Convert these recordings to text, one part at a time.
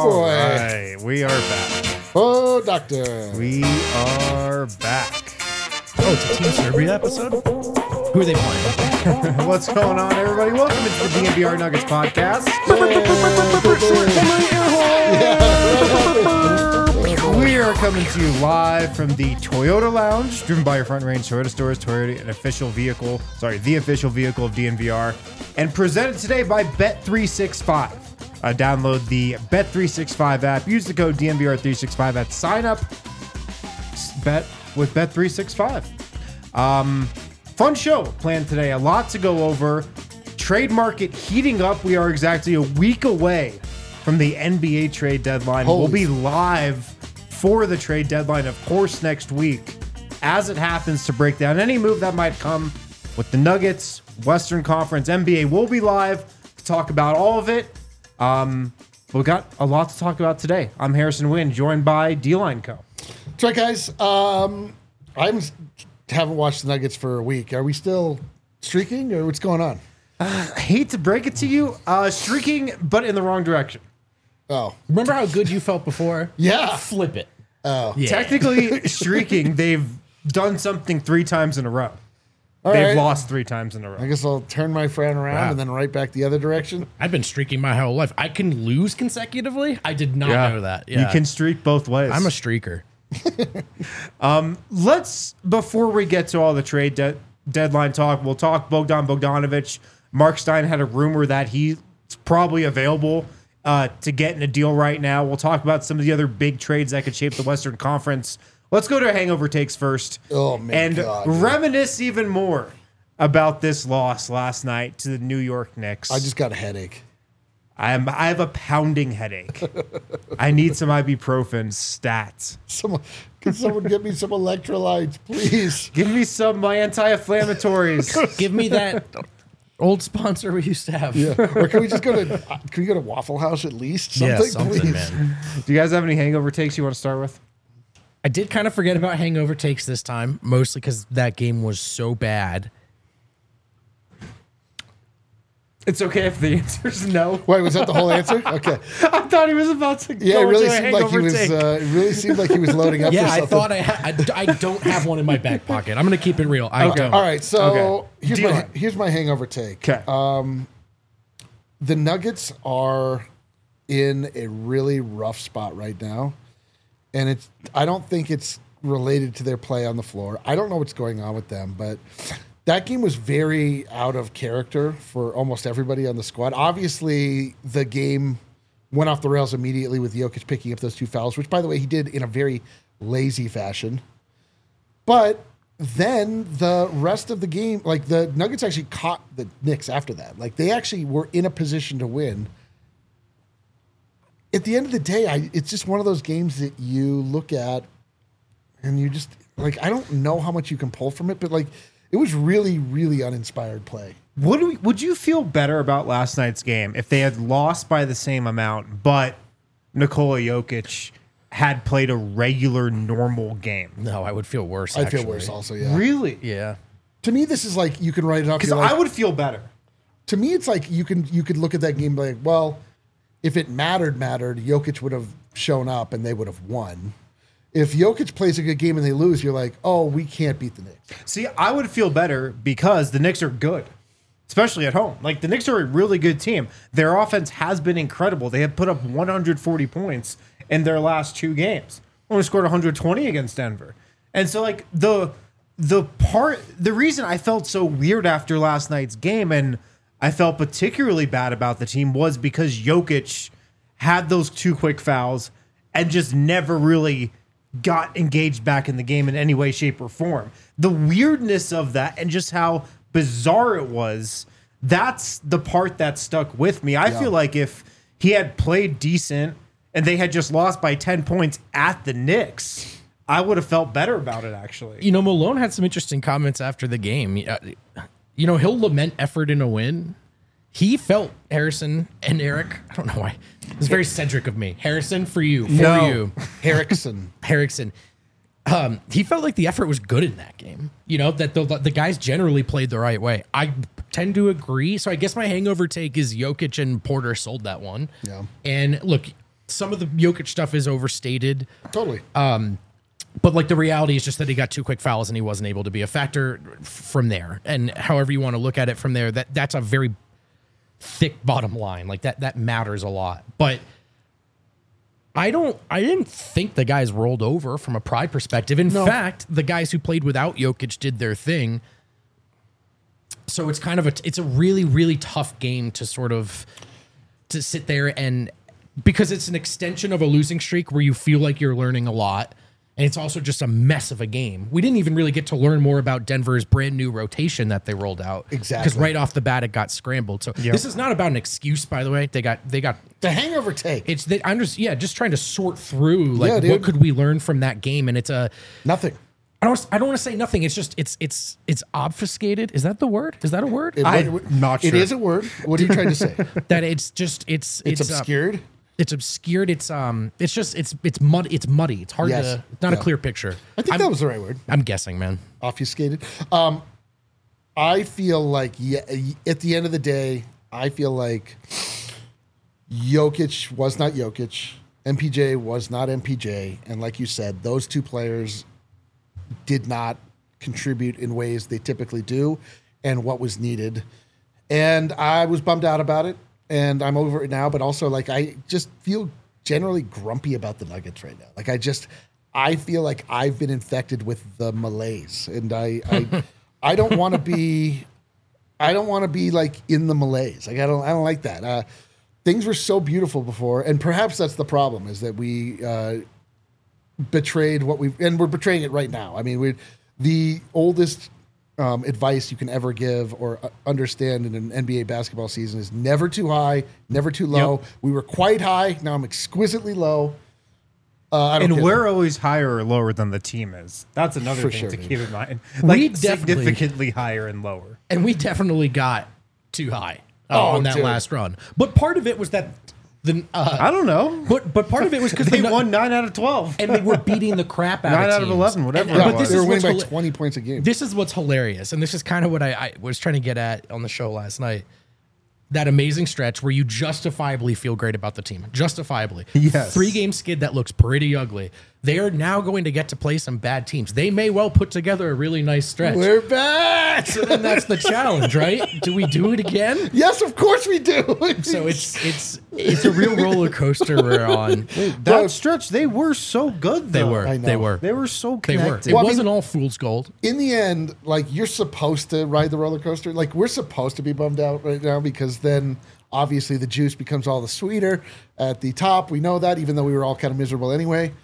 boy. Right, we are back. Oh, doctor. We are back. Oh, it's a Team Serbia episode? Who are they playing? What's going on, everybody? Welcome to the DNVR Nuggets podcast. We are coming to you live from the Toyota Lounge, driven by your Front Range Toyota stores. Toyota, the official vehicle of DNVR, and presented today by Bet365. Download the Bet365 app. Use the code DNVR365 at sign up. Bet with Bet365. Fun show planned today. A lot to go over. Trade market heating up. We are exactly a week away from the NBA trade deadline. We'll be live for the trade deadline, of course, next week as it happens to break down any move that might come with the Nuggets, Western Conference, NBA. We'll be live to talk about all of it. We've got a lot to talk about today. I'm Harrison Wynn, joined by D-Line Co. That's right, guys. I haven't watched the Nuggets for a week. Are we still streaking, or what's going on? I hate to break it to you, streaking, but in the wrong direction. Oh, Remember how good you felt before? yeah. Flip it. Oh, Yeah. Technically, streaking, they've done something 3 times in a row. All They've right. lost 3 times in a row. I guess I'll turn my friend around Wow. and then right back the other direction. I've been streaking my whole life. I can lose consecutively? I did not know that. Yeah. You can streak both ways. I'm a streaker. Let's, before we get to all the trade deadline talk, we'll talk Bogdan Bogdanovic. Mark Stein had a rumor that he's probably available to get in a deal right now. We'll talk about some of the other big trades that could shape the Western Conference. Let's go to hangover takes first. Oh, my and God. reminisce even more about this loss last night to the New York Knicks. I just got a headache. I have a pounding headache. I need some ibuprofen stats. Can someone get me some electrolytes, please? Give me some my anti-inflammatories. Give me that old sponsor we used to have. Yeah. Or can we just go to Waffle House at least? Something, please. man. Do you guys have any hangover takes you want to start with? I did kind of forget about hangover takes this time, mostly because that game was so bad. It's okay if the answer is no. Wait, was that the whole answer? Okay. I thought he was about to Yeah, go it really into a seemed like he hangover was. take. It really seemed like he was loading up Yeah, for I something. thought I don't have one in my back pocket. I'm going to keep it real. I don't. All right, so Okay. here's my hangover take. Okay. The Nuggets are in a really rough spot right now, and I don't think it's related to their play on the floor. I don't know what's going on with them, but that game was very out of character for almost everybody on the squad. Obviously, the game went off the rails immediately with Jokic picking up those 2 fouls, which, by the way, he did in a very lazy fashion. But then the rest of the game, like the Nuggets actually caught the Knicks after that. Like they actually were in a position to win. At the end of the day, it's just one of those games that you look at and you just, like, I don't know how much you can pull from it, but like it was really, really uninspired play. Would you feel better about last night's game if they had lost by the same amount, but Nikola Jokic had played a regular, normal game? No, I would feel worse. I feel actually. worse also, yeah. Really? Yeah. To me, this is like, you can write it off. Because you're like, I would feel better. to me, it's like you could look at that game and be like, well, if it mattered, Jokic would have shown up and they would have won. If Jokic plays a good game and they lose, you're like, oh, we can't beat the Knicks. See, I would feel better because the Knicks are good, especially at home. Like, the Knicks are a really good team. Their offense has been incredible. They have put up 140 points in their last 2 games. Only scored 120 against Denver. And so, like, the reason I felt so weird after last night's game, and I felt particularly bad about the team, was because Jokic had those 2 quick fouls and just never really got engaged back in the game in any way, shape, or form. The weirdness of that and just how bizarre it was, that's the part that stuck with me. I feel like if he had played decent and they had just lost by 10 points at the Knicks, I would have felt better about it, actually. You know, Malone had some interesting comments after the game. You know, he'll lament effort in a win. He felt, Harrison and Eric, I don't know why. It's very Cedric of me. Harrison, for you. Harrison. He felt like the effort was good in that game. You know, that the guys generally played the right way. I tend to agree. So I guess my hangover take is Jokic and Porter sold that one. Yeah. And look, some of the Jokic stuff is overstated. Totally. But like the reality is just that he got 2 quick fouls and he wasn't able to be a factor from there. And however you want to look at it from there, that's a very thick bottom line. Like that matters a lot. But I didn't think the guys rolled over from a pride perspective. In fact, the guys who played without Jokic did their thing. So it's kind of it's a really, really tough game to sort of to sit there and because it's an extension of a losing streak where you feel like you're learning a lot. And it's also just a mess of a game. We didn't even really get to learn more about Denver's brand new rotation that they rolled out. Exactly. Because right off the bat, it got scrambled. So this is not about an excuse, by the way. They got the hangover take. I'm just trying to sort through like what could we learn from that game, and it's a nothing. I don't want to say nothing. It's just it's obfuscated. Is that the word? Is that a word? I'm not sure. It is a word. What are you trying to say? That it's just it's obscured. It's obscured. It's just it's mud. It's muddy. It's hard to. It's not a clear picture. I think that was the right word. I'm guessing, man. Obfuscated. I feel like at the end of the day, I feel like Jokic was not Jokic. MPJ was not MPJ, and like you said, those 2 players did not contribute in ways they typically do, and what was needed. And I was bummed out about it. And I'm over it now, but also like I just feel generally grumpy about the Nuggets right now. Like I feel like I've been infected with the malaise, and I don't want to be like in the malaise. Like I don't like that. Things were so beautiful before, and perhaps that's the problem is that we betrayed and we're betraying it right now. I mean, the oldest advice you can ever give or understand in an NBA basketball season is never too high, never too low. Yep. We were quite high. Now I'm exquisitely low. And we're always higher or lower than the team is. That's another thing to keep in mind. Like significantly higher and lower. And we definitely got too high on that last run. But part of it was that I don't know. But part of it was because they won 9 out of 12. and they were beating the crap out of 9 out teams. of 11, whatever. But they were winning by 20 points a game. This is what's hilarious, and this is kind of what I was trying to get at on the show last night. That amazing stretch where you justifiably feel great about the team. Justifiably. Yes. 3-game skid that looks pretty ugly. They are now going to get to play some bad teams. They may well put together a really nice stretch. We're back. So then that's the challenge, right? Do we do it again? Yes, of course we do. So it's a real roller coaster we're on. That stretch, they were so good, though. They were. They were so They were. connected. It wasn't all fool's gold. In the end, like you're supposed to ride the roller coaster. Like we're supposed to be bummed out right now because then obviously the juice becomes all the sweeter at the top. We know that, even though we were all kind of miserable anyway.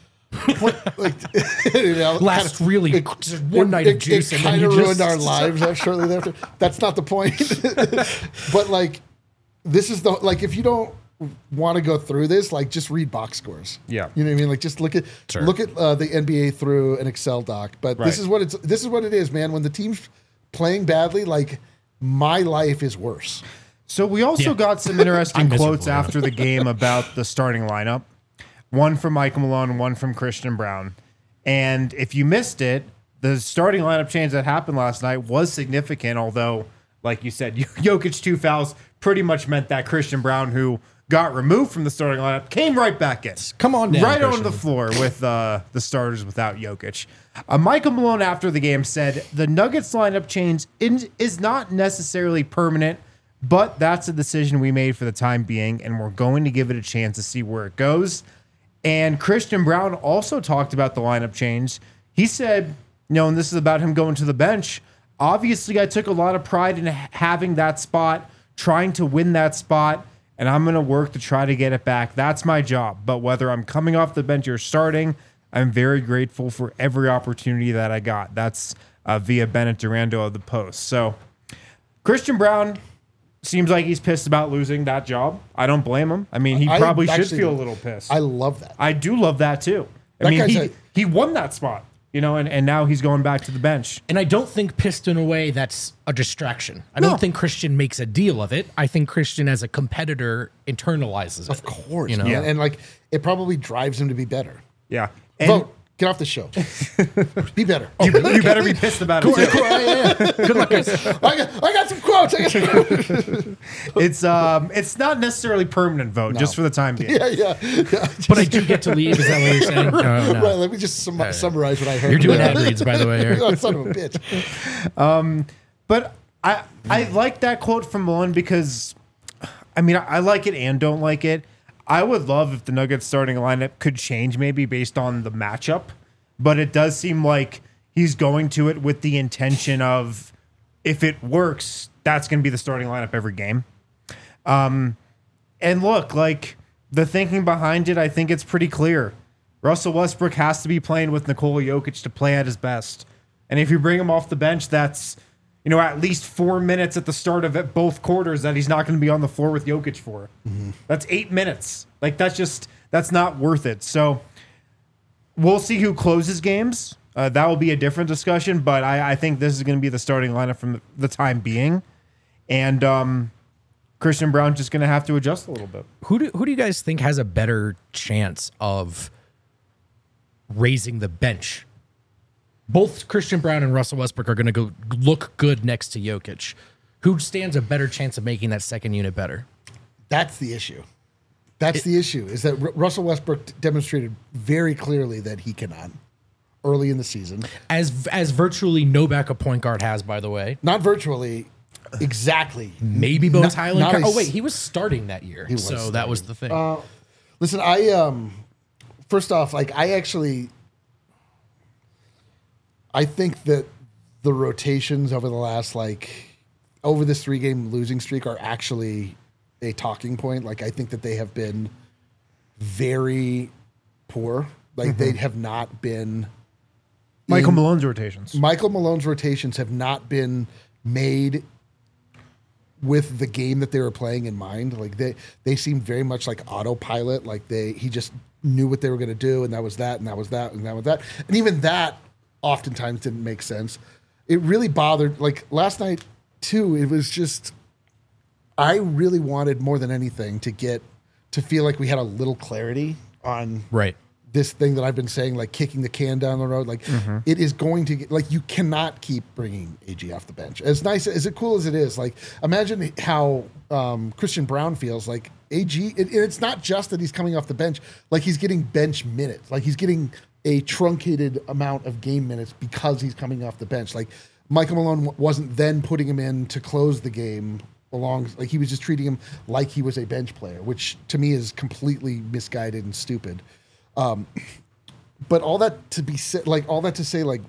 Last really just one night of juice, it and then kind of you ruined just our lives shortly thereafter. That's not the point. But like, this is if you don't want to go through this, like just read box scores. Yeah, you know what I mean. Like just look at the NBA through an Excel doc. But this is what it is, man. When the team's playing badly, like my life is worse. So we also got some interesting quotes after the game about the starting lineup. One from Michael Malone, one from Christian Braun. And if you missed it, the starting lineup change that happened last night was significant, although, like you said, Jokic 2 fouls pretty much meant that Christian Braun, who got removed from the starting lineup, came right back in. Come on down, right Christian. on the floor with the starters without Jokic. Michael Malone, after the game, said, the Nuggets lineup change is not necessarily permanent, but that's a decision we made for the time being, and we're going to give it a chance to see where it goes. And Christian Braun also talked about the lineup change. He said, and this is about him going to the bench, obviously I took a lot of pride in having that spot, trying to win that spot, and I'm going to work to try to get it back. That's my job. But whether I'm coming off the bench or starting, I'm very grateful for every opportunity that I got. That's via Bennett Durando of the Post. So Christian Braun seems like he's pissed about losing that job. I don't blame him. I mean, he probably should feel a little pissed. I love that. I do love that too. I mean, he won that spot, and now he's going back to the bench. And I don't think pissed in a way that's a distraction. I don't think Christian makes a deal of it. I think Christian, as a competitor, internalizes it. Of course, man. And like it probably drives him to be better. Yeah. Vote. Get off the show. Be better. You better be pissed about it too. Good luck, guys. I got some quotes. It's not necessarily permanent vote, just for the time being. Yeah. But I do get to leave. Is that what you're saying? No. Right, let me just summarize what I heard. You're doing ad reads, by the way, Eric. Oh, son of a bitch. But I like that quote from Malone because, I mean, I like it and don't like it. I would love if the Nuggets starting lineup could change maybe based on the matchup, but it does seem like he's going to it with the intention of, if it works, that's going to be the starting lineup every game. And look, like, the thinking behind it, I think it's pretty clear. Russell Westbrook has to be playing with Nikola Jokic to play at his best. And if you bring him off the bench, that's, you know, at least 4 minutes at the start of both quarters that he's not going to be on the floor with Jokic for. Mm-hmm. That's 8 minutes. Like, that's not worth it. So we'll see who closes games. That will be a different discussion, but I think this is going to be the starting lineup from the time being. And Christian Brown's just going to have to adjust a little bit. Who do you guys think has a better chance of raising the bench? Both Christian Brown and Russell Westbrook are going to go look good next to Jokic. Who stands a better chance of making that second unit better? That's the issue. The issue is that Russell Westbrook demonstrated very clearly that he cannot early in the season. As virtually no backup point guard has, by the way. Not virtually, exactly. Maybe Bones Highland. Oh, wait, he was starting that year. That was the thing. Listen, first off, like, I think that the rotations over this 3-game losing streak are actually a talking point. Like, I think that they have been very poor. Like, they have not been. Michael Malone's rotations have not been made with the game that they were playing in mind. Like, they seemed very much like autopilot. Like, he just knew what they were going to do, and that was that, and that was that, and that was that. And even that oftentimes didn't make sense. It really bothered, like, last night too, it was just, I really wanted more than anything to feel like we had a little clarity on this thing that I've been saying, like kicking the can down the road. Like, it is going to get, like, you cannot keep bringing AG off the bench. As nice, as cool as it is, like, imagine how Christian Brown feels. Like, AG, it's not just that he's coming off the bench, like, he's getting bench minutes. Like, he's getting a truncated amount of game minutes because he's coming off the bench. Like, Michael Malone wasn't then putting him in to close the game along. Like, he was just treating him like he was a bench player, which to me is completely misguided and stupid. But all that to be said, like,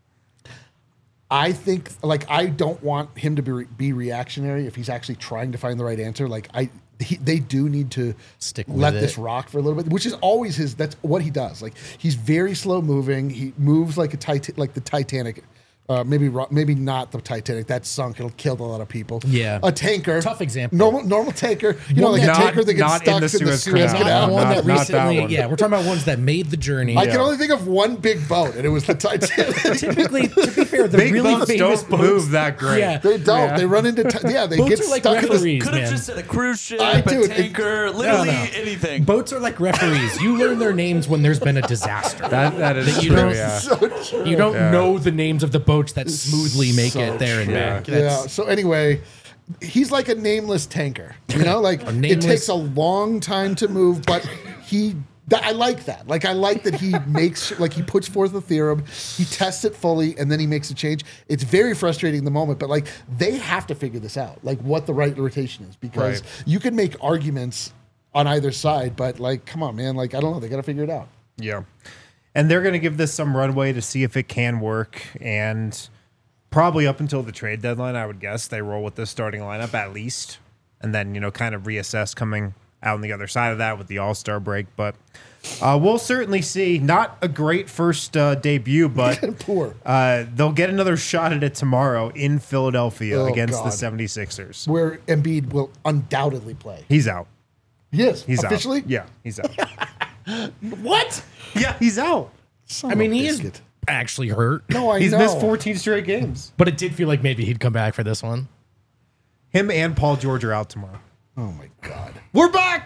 I think, like, I don't want him to be reactionary if he's actually trying to find the right answer. Like, they do need to let this rock for a little bit, which is always that's what he does. Like, he's very slow moving. He moves like the Titanic. Maybe not the Titanic. That's sunk. It'll kill a lot of people. Yeah. A tanker. Tough example. Normal tanker. You know, like a tanker that gets stuck in the Suez Canal. One that recently, we're talking about ones that made the journey. I can only think of one big boat, and it was the Titanic. Typically, to be fair, the big really boats famous don't move that great. Yeah. They don't. Yeah. They run into they boats get are like stuck in referees, Could have just said a cruise ship, a tanker, literally anything. Boats are like referees. You learn their names when there's been a disaster. That is you true, don't, You don't know the names of the boats that smoothly make it there and back. Yeah. So anyway, he's like a nameless tanker. You know, like it takes a long time to move, but I like that. Like, I like that he makes, like, he puts forth the theorem, he tests it fully, and then he makes a change. It's very frustrating in the moment, but, like, they have to figure this out, like, what the right rotation is, because you can make arguments on either side, but, like, come on, man. Like, I don't know. They got to figure it out. Yeah. And they're going to give this some runway to see if it can work. And probably up until the trade deadline, I would guess, they roll with this starting lineup at least. And then, you know, kind of reassess coming out on the other side of that with the All-Star break. But we'll certainly see. Not a great first debut, but poor. They'll get another shot at it tomorrow in Philadelphia against the 76ers. Where Embiid will undoubtedly play. He's out. Yes. He's officially? out. Yeah, he's out. What? Yeah, he's out. I mean, he is actually hurt. No, He's missed 14 straight games. But it did feel like maybe he'd come back for this one. Him and Paul George are out tomorrow. Oh, my God. We're back!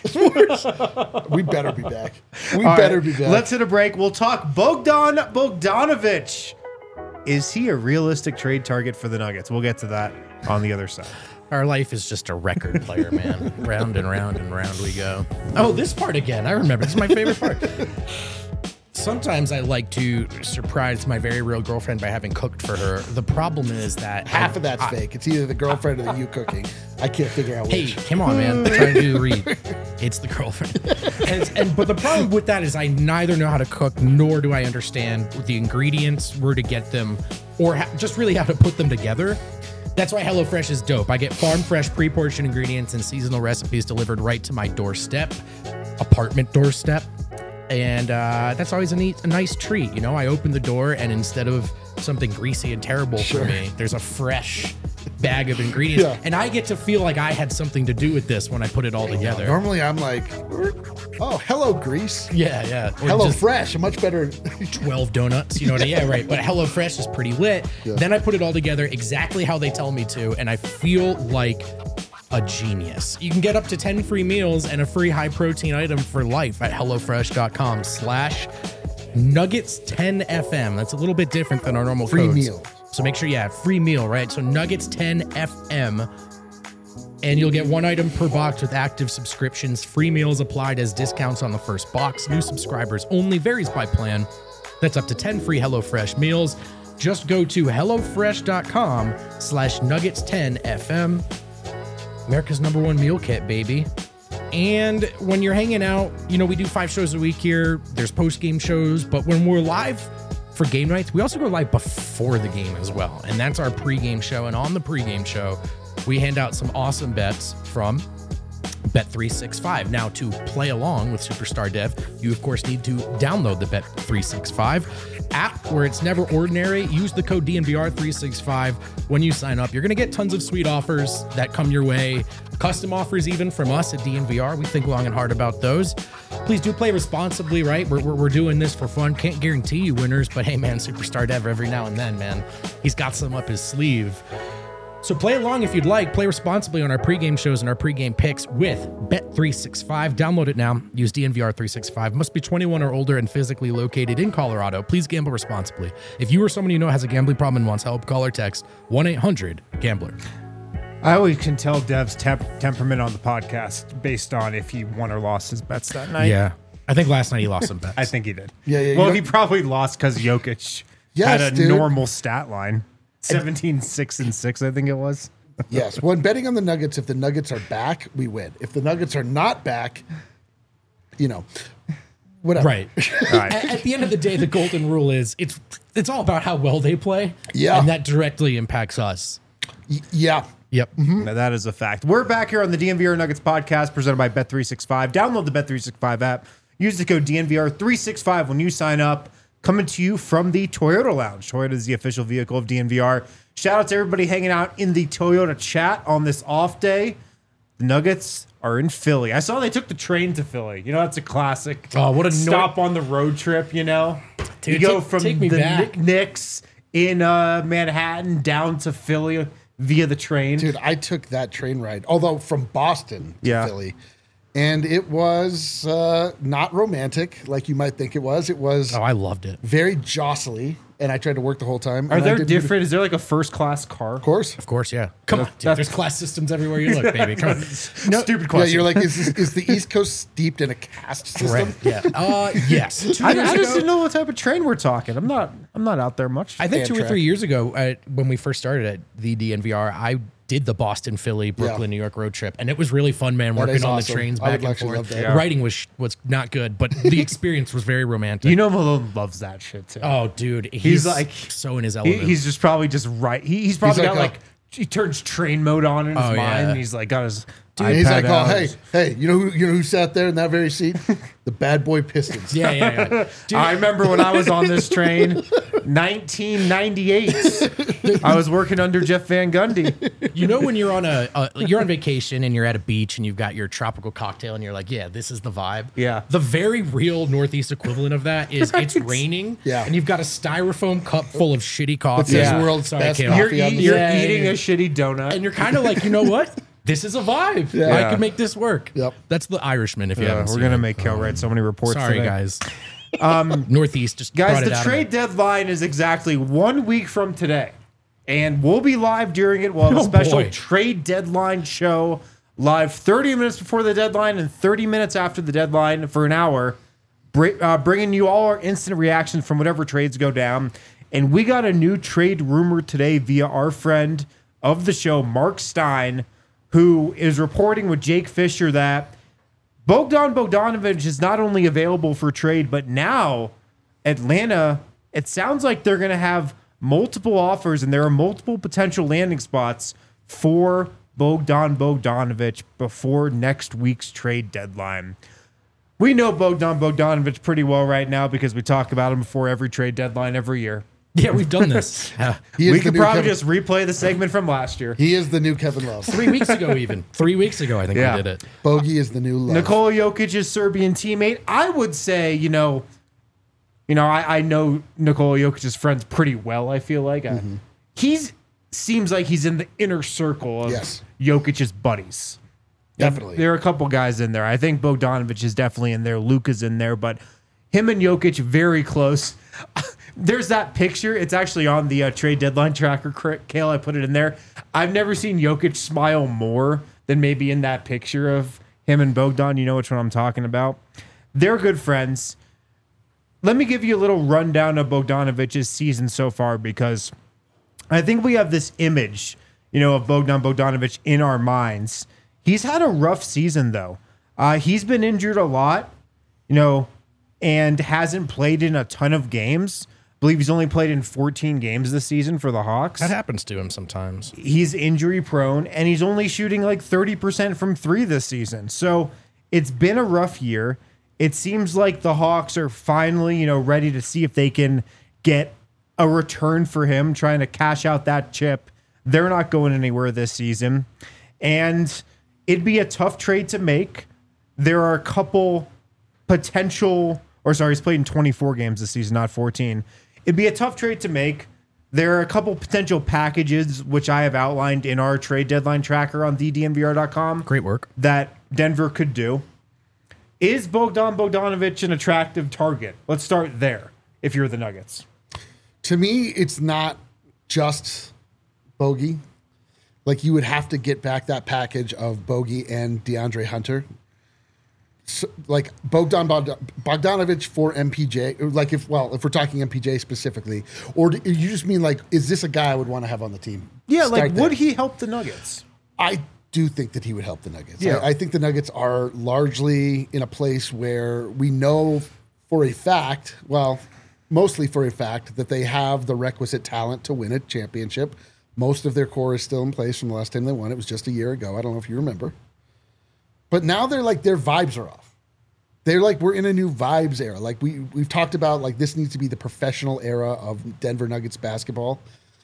We better be back. We All better right, be back. Let's hit a break. We'll talk Bogdan Bogdanovic. Is he a realistic trade target for the Nuggets? We'll get to that on the other side. Our life is just a record player, man. Round and round and round we go. Oh, this part again. I remember. This is my favorite part. Sometimes I like to surprise my very real girlfriend by having cooked for her. The problem is that Half of that's fake. It's either the girlfriend or the you cooking. I can't figure out Hey, which. come on, man. I'm trying to do the read. It's the girlfriend. But the problem with that is I neither know how to cook nor do I understand the ingredients, where to get them, or just really how to put them together. That's why HelloFresh is dope. I get farm fresh, pre-portioned ingredients and seasonal recipes delivered right to my doorstep, apartment doorstep. And that's always a nice treat. You know, I open the door and instead of something greasy and terrible for me, there's a fresh bag of ingredients. Yeah. And I get to feel like I had something to do with this when I put it all together. Normally I'm like, oh, hello, Grease. Yeah, yeah. Or Hello, just Fresh. A much better. 12 donuts, you know what I mean? Yeah, right. But HelloFresh is pretty lit. Yeah. Then I put it all together exactly how they tell me to, and I feel like a genius. You can get up to 10 free meals and a free high protein item for life at HelloFresh.com/Nuggets10FM. That's a little bit different than our normal Free codes. meal. So make sure, free meal, right? So Nuggets10FM. And you'll get one item per box with active subscriptions. Free meals applied as discounts on the first box. New subscribers only. Varies by plan. That's up to 10 free HelloFresh meals. Just go to HelloFresh.com/Nuggets10FM. America's #1 meal kit, baby. And when you're hanging out, you know, we do 5 shows a week here. There's post-game shows, but when we're live for game nights, we also go live before the game as well. And that's our pregame show. And on the pregame show, we hand out some awesome bets from Bet365. Now, to play along with Superstar Dev, you of course need to download the Bet365 app, where it's never ordinary. Use the code DNVR365 when you sign up. You're going to get tons of sweet offers that come your way. Custom offers even from us at DNVR. We think long and hard about those. Please do play responsibly, right? We're doing this for fun. Can't guarantee you winners, but hey, man, Superstar Dev every now and then, man, he's got some up his sleeve. So play along if you'd like. Play responsibly on our pregame shows and our pregame picks with Bet365. Download it now. Use DNVR365. Must be 21 or older and physically located in Colorado. Please gamble responsibly. If you or someone you know has a gambling problem and wants help, call or text 1-800-GAMBLER. I always can tell Dev's temperament on the podcast based on if he won or lost his bets that night. Yeah. I think last night he lost some bets. I think he did. Yeah, Well, you he know- probably lost because Jokic Yes, had a dude. normal stat line. 17-6-6, I think it was. Yes. When betting on the Nuggets, if the Nuggets are back, we win. If the Nuggets are not back, you know, whatever. Right. All right. At the end of the day, the golden rule is it's all about how well they play. Yeah. And that directly impacts us. Yeah. Yep. Now, that is a fact. We're back here on the DNVR Nuggets podcast presented by Bet365. Download the Bet365 app. Use the code DNVR365 when you sign up. Coming to you from the Toyota Lounge. Toyota is the official vehicle of DNVR. Shout out to everybody hanging out in the Toyota chat on this off day. The Nuggets are in Philly. I saw they took the train to Philly. You know, that's a classic. Oh, what a stop on the road trip, you know? Dude, you go take- from take me the back. Knicks in Manhattan down to Philly via the train. Dude, I took that train ride, although from Boston to Yeah. Philly. And it was not romantic like you might think it was. It was Oh, I loved it. very jostly, and I tried to work the whole time. Are and I there didn't- different? Is there like a first class car? Of course. Of course, yeah. Come on, dude, that's- there's class systems everywhere you look, baby. Come on. No, Stupid Yeah, question. you're like, is the East Coast steeped in a caste system? right. Yeah. Yes. 2 I years just ago, didn't know what type of train we're talking. I'm not out there much. I think 2 or Amtrak. 3 years ago, when we first started at the DNVR, I did the Boston, Philly, Brooklyn, New York road trip, and it was really fun, man. That Working is on awesome. the trains I back would and actually forth. love that. Yeah. Writing was not good, but the experience was very romantic. You know, Malone loves that shit too. Oh, dude, he's like- so in his element. He's just probably just right. He's probably like got a- like he turns train mode on in his Oh, mind, yeah. and he's like got his. And he's like, iPad oh, out. hey, you know who sat there in that very seat? The bad boy Pistons. yeah. Dude, I remember when I was on this train, 1998. I was working under Jeff Van Gundy. you know when you're on you're on vacation and you're at a beach and you've got your tropical cocktail and you're like, yeah, this is the vibe. Yeah. The very real Northeast equivalent of that is it's raining. Yeah. And you've got a styrofoam cup full of shitty coffee. says Yeah. world's Sorry, best Caleb. coffee You're, on the you're Yeah, eating yeah. a shitty donut. And you're kind of like, you know what? this is a vibe. Yeah. I could make this work. Yep. That's the Irishman. If you haven't We're seen gonna it. make Kel write so many reports. Sorry, today. guys. Northeast just Guys, brought it the out of trade me. deadline is exactly 1 week from today. And we'll be live during it. We'll have a Oh, special boy. trade deadline show live 30 minutes before the deadline and 30 minutes after the deadline for an hour, bringing you all our instant reactions from whatever trades go down. And we got a new trade rumor today via our friend of the show, Mark Stein, who is reporting with Jake Fisher that Bogdan Bogdanovic is not only available for trade, but now Atlanta, it sounds like they're going to have multiple offers and there are multiple potential landing spots for Bogdan Bogdanovic before next week's trade deadline. We know Bogdan Bogdanovic pretty well right now because we talk about him before every trade deadline every year. Yeah, we've done this. He is We the could new probably Kevin- just replay the segment from last year. He is the new Kevin Love. 3 weeks ago, even 3 weeks ago, I think Yeah. we did it. Bogey is the new Love. Nikola Jokic's Serbian teammate. I would say, I know Nikola Jokic's friends pretty well. I feel like seems like he's in the inner circle of Yes. Jokic's buddies. Definitely. There are a couple guys in there. I think Bogdanovic is definitely in there. Luka's in there, but him and Jokic very close. There's that picture. It's actually on the trade deadline tracker, Kale. I put it in there. I've never seen Jokic smile more than maybe in that picture of him and Bogdan. You know which one I'm talking about. They're good friends. Let me give you a little rundown of Bogdanovic's season so far because I think we have this image, of Bogdan Bogdanovic in our minds. He's had a rough season, though. He's been injured a lot, and hasn't played in a ton of games. I believe he's only played in 14 games this season for the Hawks. That happens to him sometimes. He's injury prone, and he's only shooting like 30% from three this season. So it's been a rough year. It seems like the Hawks are finally, ready to see if they can get a return for him, trying to cash out that chip. They're not going anywhere this season. And it'd be a tough trade to make. There are a couple he's played in 24 games this season, not 14. It'd be a tough trade to make. There are a couple potential packages, which I have outlined in our trade deadline tracker on thednvr.com. Great work. That Denver could do. Is Bogdan Bogdanovic an attractive target? Let's start there if you're the Nuggets. To me, it's not just Bogey. Like, you would have to get back that package of Bogey and DeAndre Hunter. So, like Bogdanovic for MPJ, like if we're talking MPJ specifically, or do you just mean like, is this a guy I would want to have on the team? Yeah, Start there. would he help the Nuggets? I do think that he would help the Nuggets. Yeah. I think the Nuggets are largely in a place where we know for a fact, mostly for a fact, that they have the requisite talent to win a championship. Most of their core is still in place from the last time they won. It was just a year ago. I don't know if you remember. But now they're like, their vibes are off. They're like, we're in a new vibes era. Like we've talked about, like, this needs to be the professional era of Denver Nuggets basketball.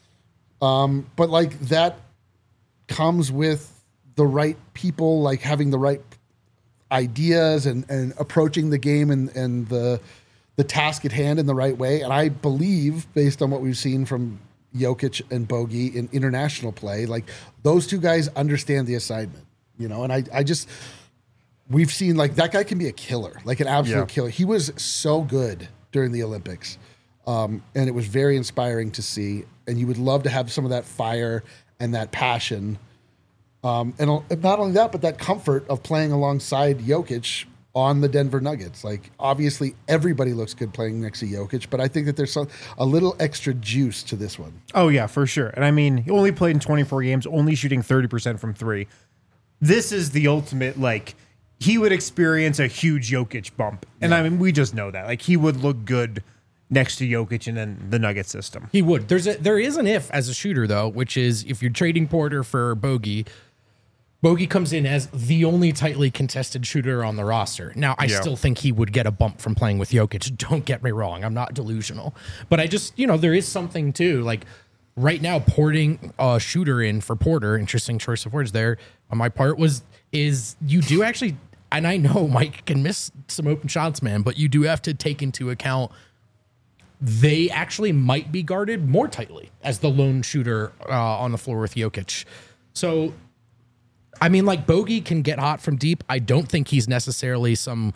But like that comes with the right people, like having the right ideas and approaching the game and the task at hand in the right way. And I believe, based on what we've seen from Jokic and Bogey in international play, like those two guys understand the assignment, and I just, we've seen like that guy can be a killer, like an absolute killer. He was so good during the Olympics. And it was very inspiring to see. And you would love to have some of that fire and that passion. And not only that, but that comfort of playing alongside Jokic on the Denver Nuggets. Like, obviously, everybody looks good playing next to Jokic, but I think that there's a little extra juice to this one. Oh, yeah, for sure. And I mean, he only played in 24 games, only shooting 30% from three. This is the ultimate, like, he would experience a huge Jokic bump. And I mean, we just know that. Like, he would look good next to Jokic and then the Nugget system. He would. There is an if as a shooter, though, which is if you're trading Porter for Bogey comes in as the only tightly contested shooter on the roster. Now, I still think he would get a bump from playing with Jokic. Don't get me wrong. I'm not delusional. But I just, there is something too. Like, right now, porting a shooter in for Porter, interesting choice of words there on my part, is you do actually, and I know Mike can miss some open shots, man, but you do have to take into account they actually might be guarded more tightly as the lone shooter on the floor with Jokic. So I mean, like Bogey can get hot from deep. I don't think he's necessarily some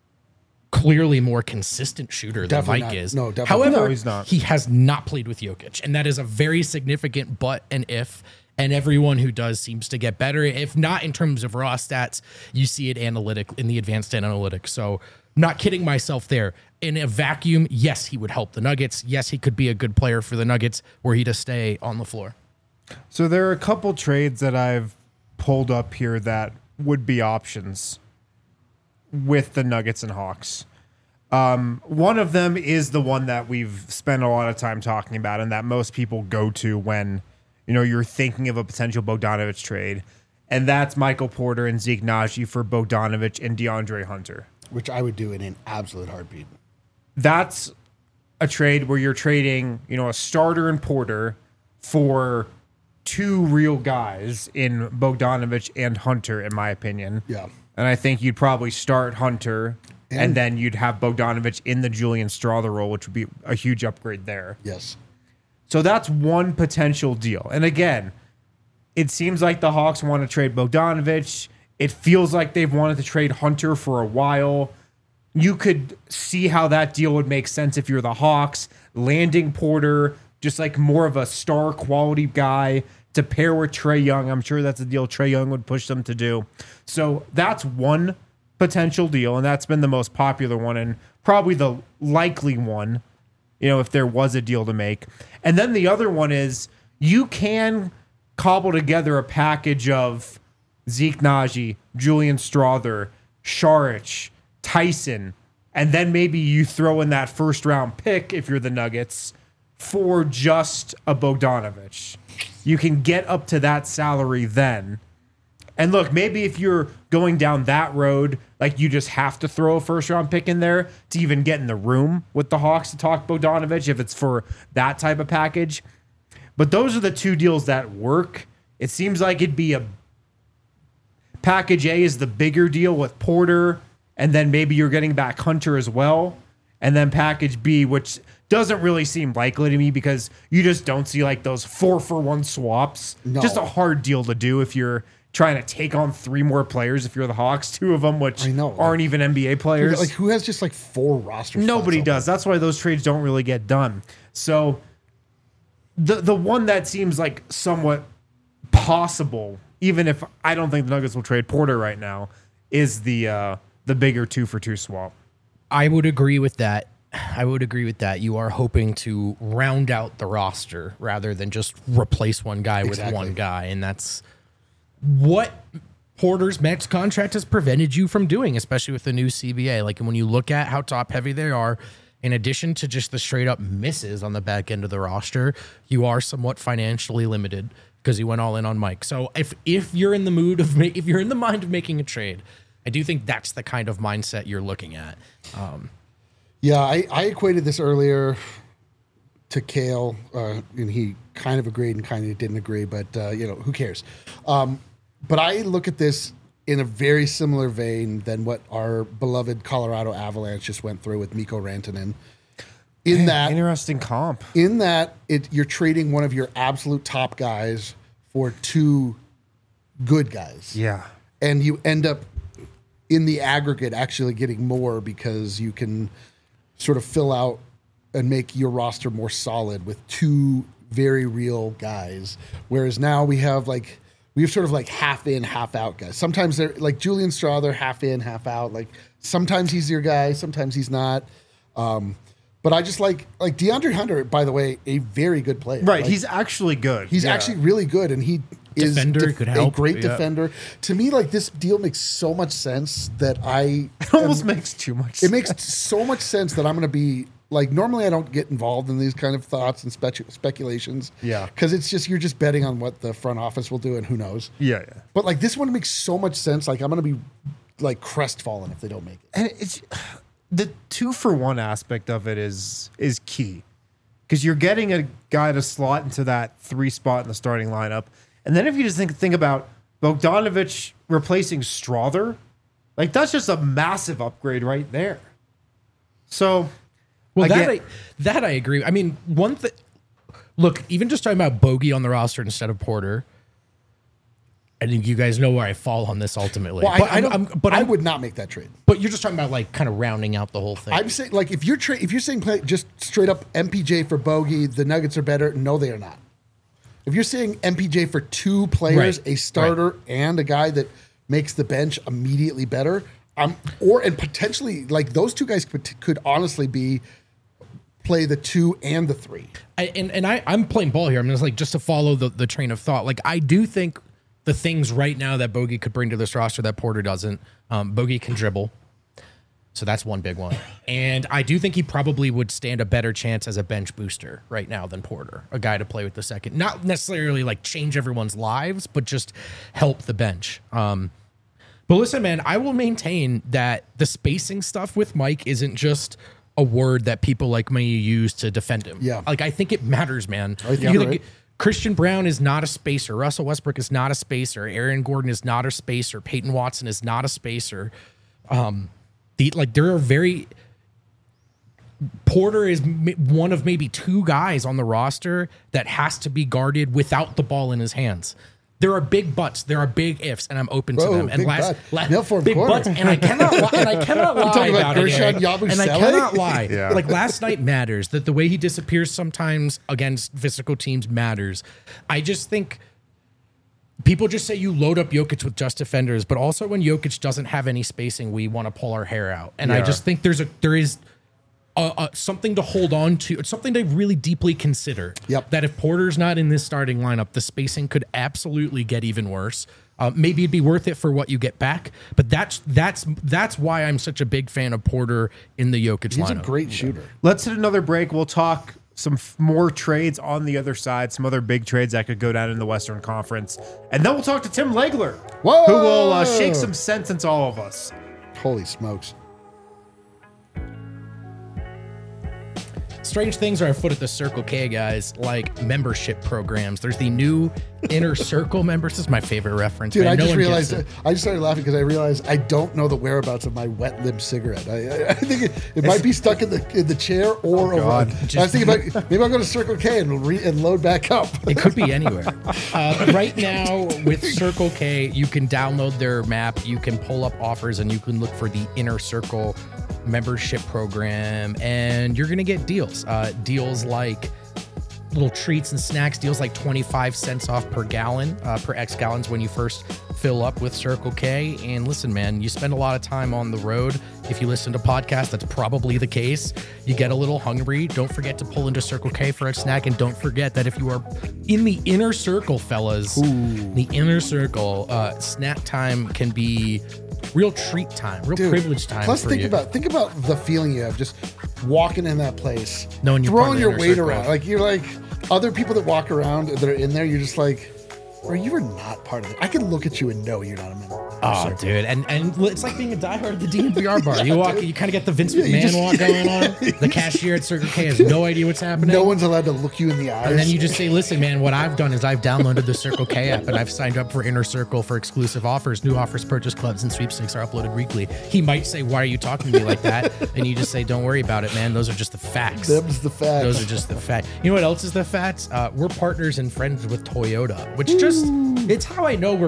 clearly more consistent shooter Definitely than Mike not. is. No, definitely However, No, he's not. he has not played with Jokic, and that is a very significant but and if. And everyone who does seems to get better. If not in terms of raw stats, you see it in the advanced analytics. So not kidding myself there. In a vacuum, yes, he would help the Nuggets. Yes, he could be a good player for the Nuggets were he to stay on the floor. So there are a couple trades that I've pulled up here that would be options with the Nuggets and Hawks. One of them is the one that we've spent a lot of time talking about and that most people go to when you're thinking of a potential Bogdanovich trade, and that's Michael Porter and Zeke Naji for Bogdanovich and DeAndre Hunter. Which I would do in an absolute heartbeat. That's a trade where you're trading, a starter in Porter for two real guys in Bogdanovich and Hunter, in my opinion. Yeah. And I think you'd probably start Hunter, and then you'd have Bogdanovich in the Julian Strawther role, which would be a huge upgrade there. Yes. So that's one potential deal. And again, it seems like the Hawks want to trade Bogdanovich. It feels like they've wanted to trade Hunter for a while. You could see how that deal would make sense if you're the Hawks, landing Porter, just like more of a star quality guy to pair with Trae Young. I'm sure that's a deal Trae Young would push them to do. So that's one potential deal, and that's been the most popular one and probably the likely one, if there was a deal to make. And then the other one is you can cobble together a package of Zeke Naji, Julian Strawther, Šarić, Tyson, and then maybe you throw in that first round pick if you're the Nuggets for just a Bogdanovich. You can get up to that salary then. And look, maybe if you're going down that road, like you just have to throw a first round pick in there to even get in the room with the Hawks to talk Bogdanovich if it's for that type of package. But those are the two deals that work. It seems like it'd be a package A is the bigger deal with Porter, and then maybe you're getting back Hunter as well. And then package B, which doesn't really seem likely to me because you just don't see like those 4-for-1 swaps. No. Just a hard deal to do if you're trying to take on three more players if you're the Hawks, two of them which aren't even NBA players. Like who has just like 4 roster spots Nobody open? does. That's why those trades don't really get done. So the one that seems like somewhat possible, even if I don't think the Nuggets will trade Porter right now, is the bigger 2-for-2 swap. I would agree with that. You are hoping to round out the roster rather than just replace one guy with one guy. And that's what Porter's max contract has prevented you from doing, especially with the new CBA. Like when you look at how top heavy they are, in addition to just the straight up misses on the back end of the roster, you are somewhat financially limited because you went all in on Mike. So if you're in the mood of if you're in the mind of making a trade, I do think that's the kind of mindset you're looking at. Yeah, I equated this earlier to Kale, and he kind of agreed and kind of didn't agree, but who cares? But I look at this in a very similar vein than what our beloved Colorado Avalanche just went through with Mikko Rantanen. Interesting comp. In that you're trading one of your absolute top guys for 2 good guys. Yeah. And you end up in the aggregate actually getting more because you can sort of fill out and make your roster more solid with 2 very real guys. Whereas now we have sort of like half in, half out guys. Sometimes they're like Julian Strawther, half in, half out. Like sometimes he's your guy, sometimes he's not. But I just like DeAndre Hunter, by the way, a very good player. Right. Like, He's actually good. He's actually really good, and he is could help, a great yeah. defender. To me, like this deal makes so much sense that It almost makes too much sense. it makes so much sense that I'm going to be like, normally I don't get involved in these kind of thoughts and speculations. Yeah. Because it's just, you're just betting on what the front office will do and who knows. Yeah. But like this one makes so much sense. Like I'm going to be like crestfallen if they don't make it. And it's the 2-for-1 aspect of it is key because you're getting a guy to slot into that 3 spot in the starting lineup. And then if you just think about Bogdanovich replacing Strawther, like that's just a massive upgrade right there. So, well, again, that I agree. I mean, one thing. Look, even just talking about Bogey on the roster instead of Porter, I think you guys know where I fall on this ultimately. Well, I would not make that trade. But you're just talking about like kind of rounding out the whole thing. I'm saying like if you're saying play just straight up MPJ for Bogey, the Nuggets are better. No, they are not. If you're saying MPJ for two players, Right. a starter and a guy that makes the bench immediately better, and potentially like those two guys could honestly be play the 2 and the 3. I'm playing ball here. I'm just to follow the train of thought. Like I do think the things right now that Bogey could bring to this roster that Porter doesn't. Bogey can dribble. So that's one big one. And I do think he probably would stand a better chance as a bench booster right now than Porter, a guy to play with the second. Not necessarily like change everyone's lives, but just help the bench. But listen, man, I will maintain that the spacing stuff with Mike isn't just a word that people like me use to defend him. Yeah. Like, I think it matters, man. I think you're right. Christian Brown is not a spacer. Russell Westbrook is not a spacer. Aaron Gordon is not a spacer. Peyton Watson is not a spacer. There are very... Porter is one of maybe two guys on the roster that has to be guarded without the ball in his hands. There are big buts, there are big ifs, and I'm open to them. And big buts, and I cannot lie. And I cannot lie about it. Gershon Eric. Yabusele? And I cannot lie. Yeah. Like last night matters. That the way he disappears sometimes against physical teams matters. I just think people just say you load up Jokic with just defenders, but also when Jokic doesn't have any spacing, we want to pull our hair out. And I just think there is something to hold on to. It's something to really deeply consider. Yep. That if Porter's not in this starting lineup, the spacing could absolutely get even worse. Maybe it'd be worth it for what you get back, but that's why I'm such a big fan of Porter in the Jokic lineup. He's a great shooter. Let's hit another break. We'll talk some more trades on the other side, some other big trades that could go down in the Western Conference. And then we'll talk to Tim Legler, Whoa! who will shake some sense into all of us. Holy smokes. Strange things are afoot at the Circle K, guys, like membership programs. There's the new Inner Circle members. This is my favorite reference. Dude, man. I No just one realized, gets it. I just started laughing because I realized I don't know the whereabouts of my wet lip cigarette. I think it might be stuck in the chair or over. God. I was thinking about, maybe I'll go to Circle K and load back up. It could be anywhere. Right now, with Circle K, you can download their map, you can pull up offers, and you can look for the Inner Circle membership program, and you're going to get deals. Deals like little treats and snacks, deals like 25 cents off per gallon, per X gallons when you first fill up with Circle K. And listen, man, you spend a lot of time on the road. If you listen to podcasts, that's probably the case. You get a little hungry. Don't forget to pull into Circle K for a snack. And don't forget that if you are in the inner circle, fellas, the inner circle, snack time can be real treat time, real privilege time. Plus, for think you. about the feeling you have just walking in that place, Knowing you're part of throwing the your inner weight circle. around. Like you're like other people that walk around that are in there. You're just like, bro, you are not part of it. I can look at you and know you're not a member. Oh, dude, and it's like being a diehard at the DNVR bar. You walk, you kind of get the Vince Yeah, you McMahon just- walk going on. The cashier at Circle K has no idea what's happening. No one's allowed to look you in the eyes. And then you just say, listen, man, what I've done is I've downloaded the Circle K app and I've signed up for Inner Circle for exclusive offers. New offers, purchase clubs, and sweepstakes are uploaded weekly. He might say, why are you talking to me like that? And you just say, don't worry about it, man. Those are just the facts. Them's the facts. Those are just the facts. You know what else is the facts? We're partners and friends with Toyota, which it's how I know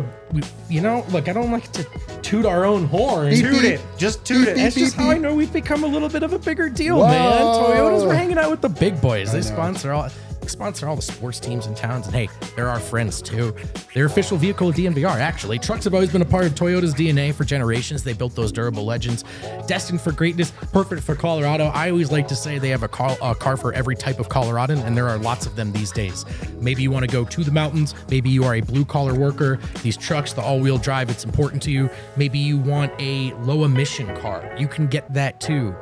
look, I don't like to toot our own horn. Beep, Toot beep. it. Just toot it. That's just how I know we've become a little bit of a bigger deal, man. Whoa. Toyotas, we're hanging out with the big boys. They know. sponsor all the sports teams in towns. And hey, they're our friends too. Their official vehicle of DNVR, actually. Trucks have always been a part of Toyota's DNA for generations. They built those durable legends, destined for greatness, perfect for Colorado. I always like to say they have a car for every type of Coloradan, and there are lots of them these days. Maybe you want to go to the mountains. Maybe you are a blue-collar worker. These trucks, the all-wheel drive, it's important to you. Maybe you want a low-emission car. You can get that too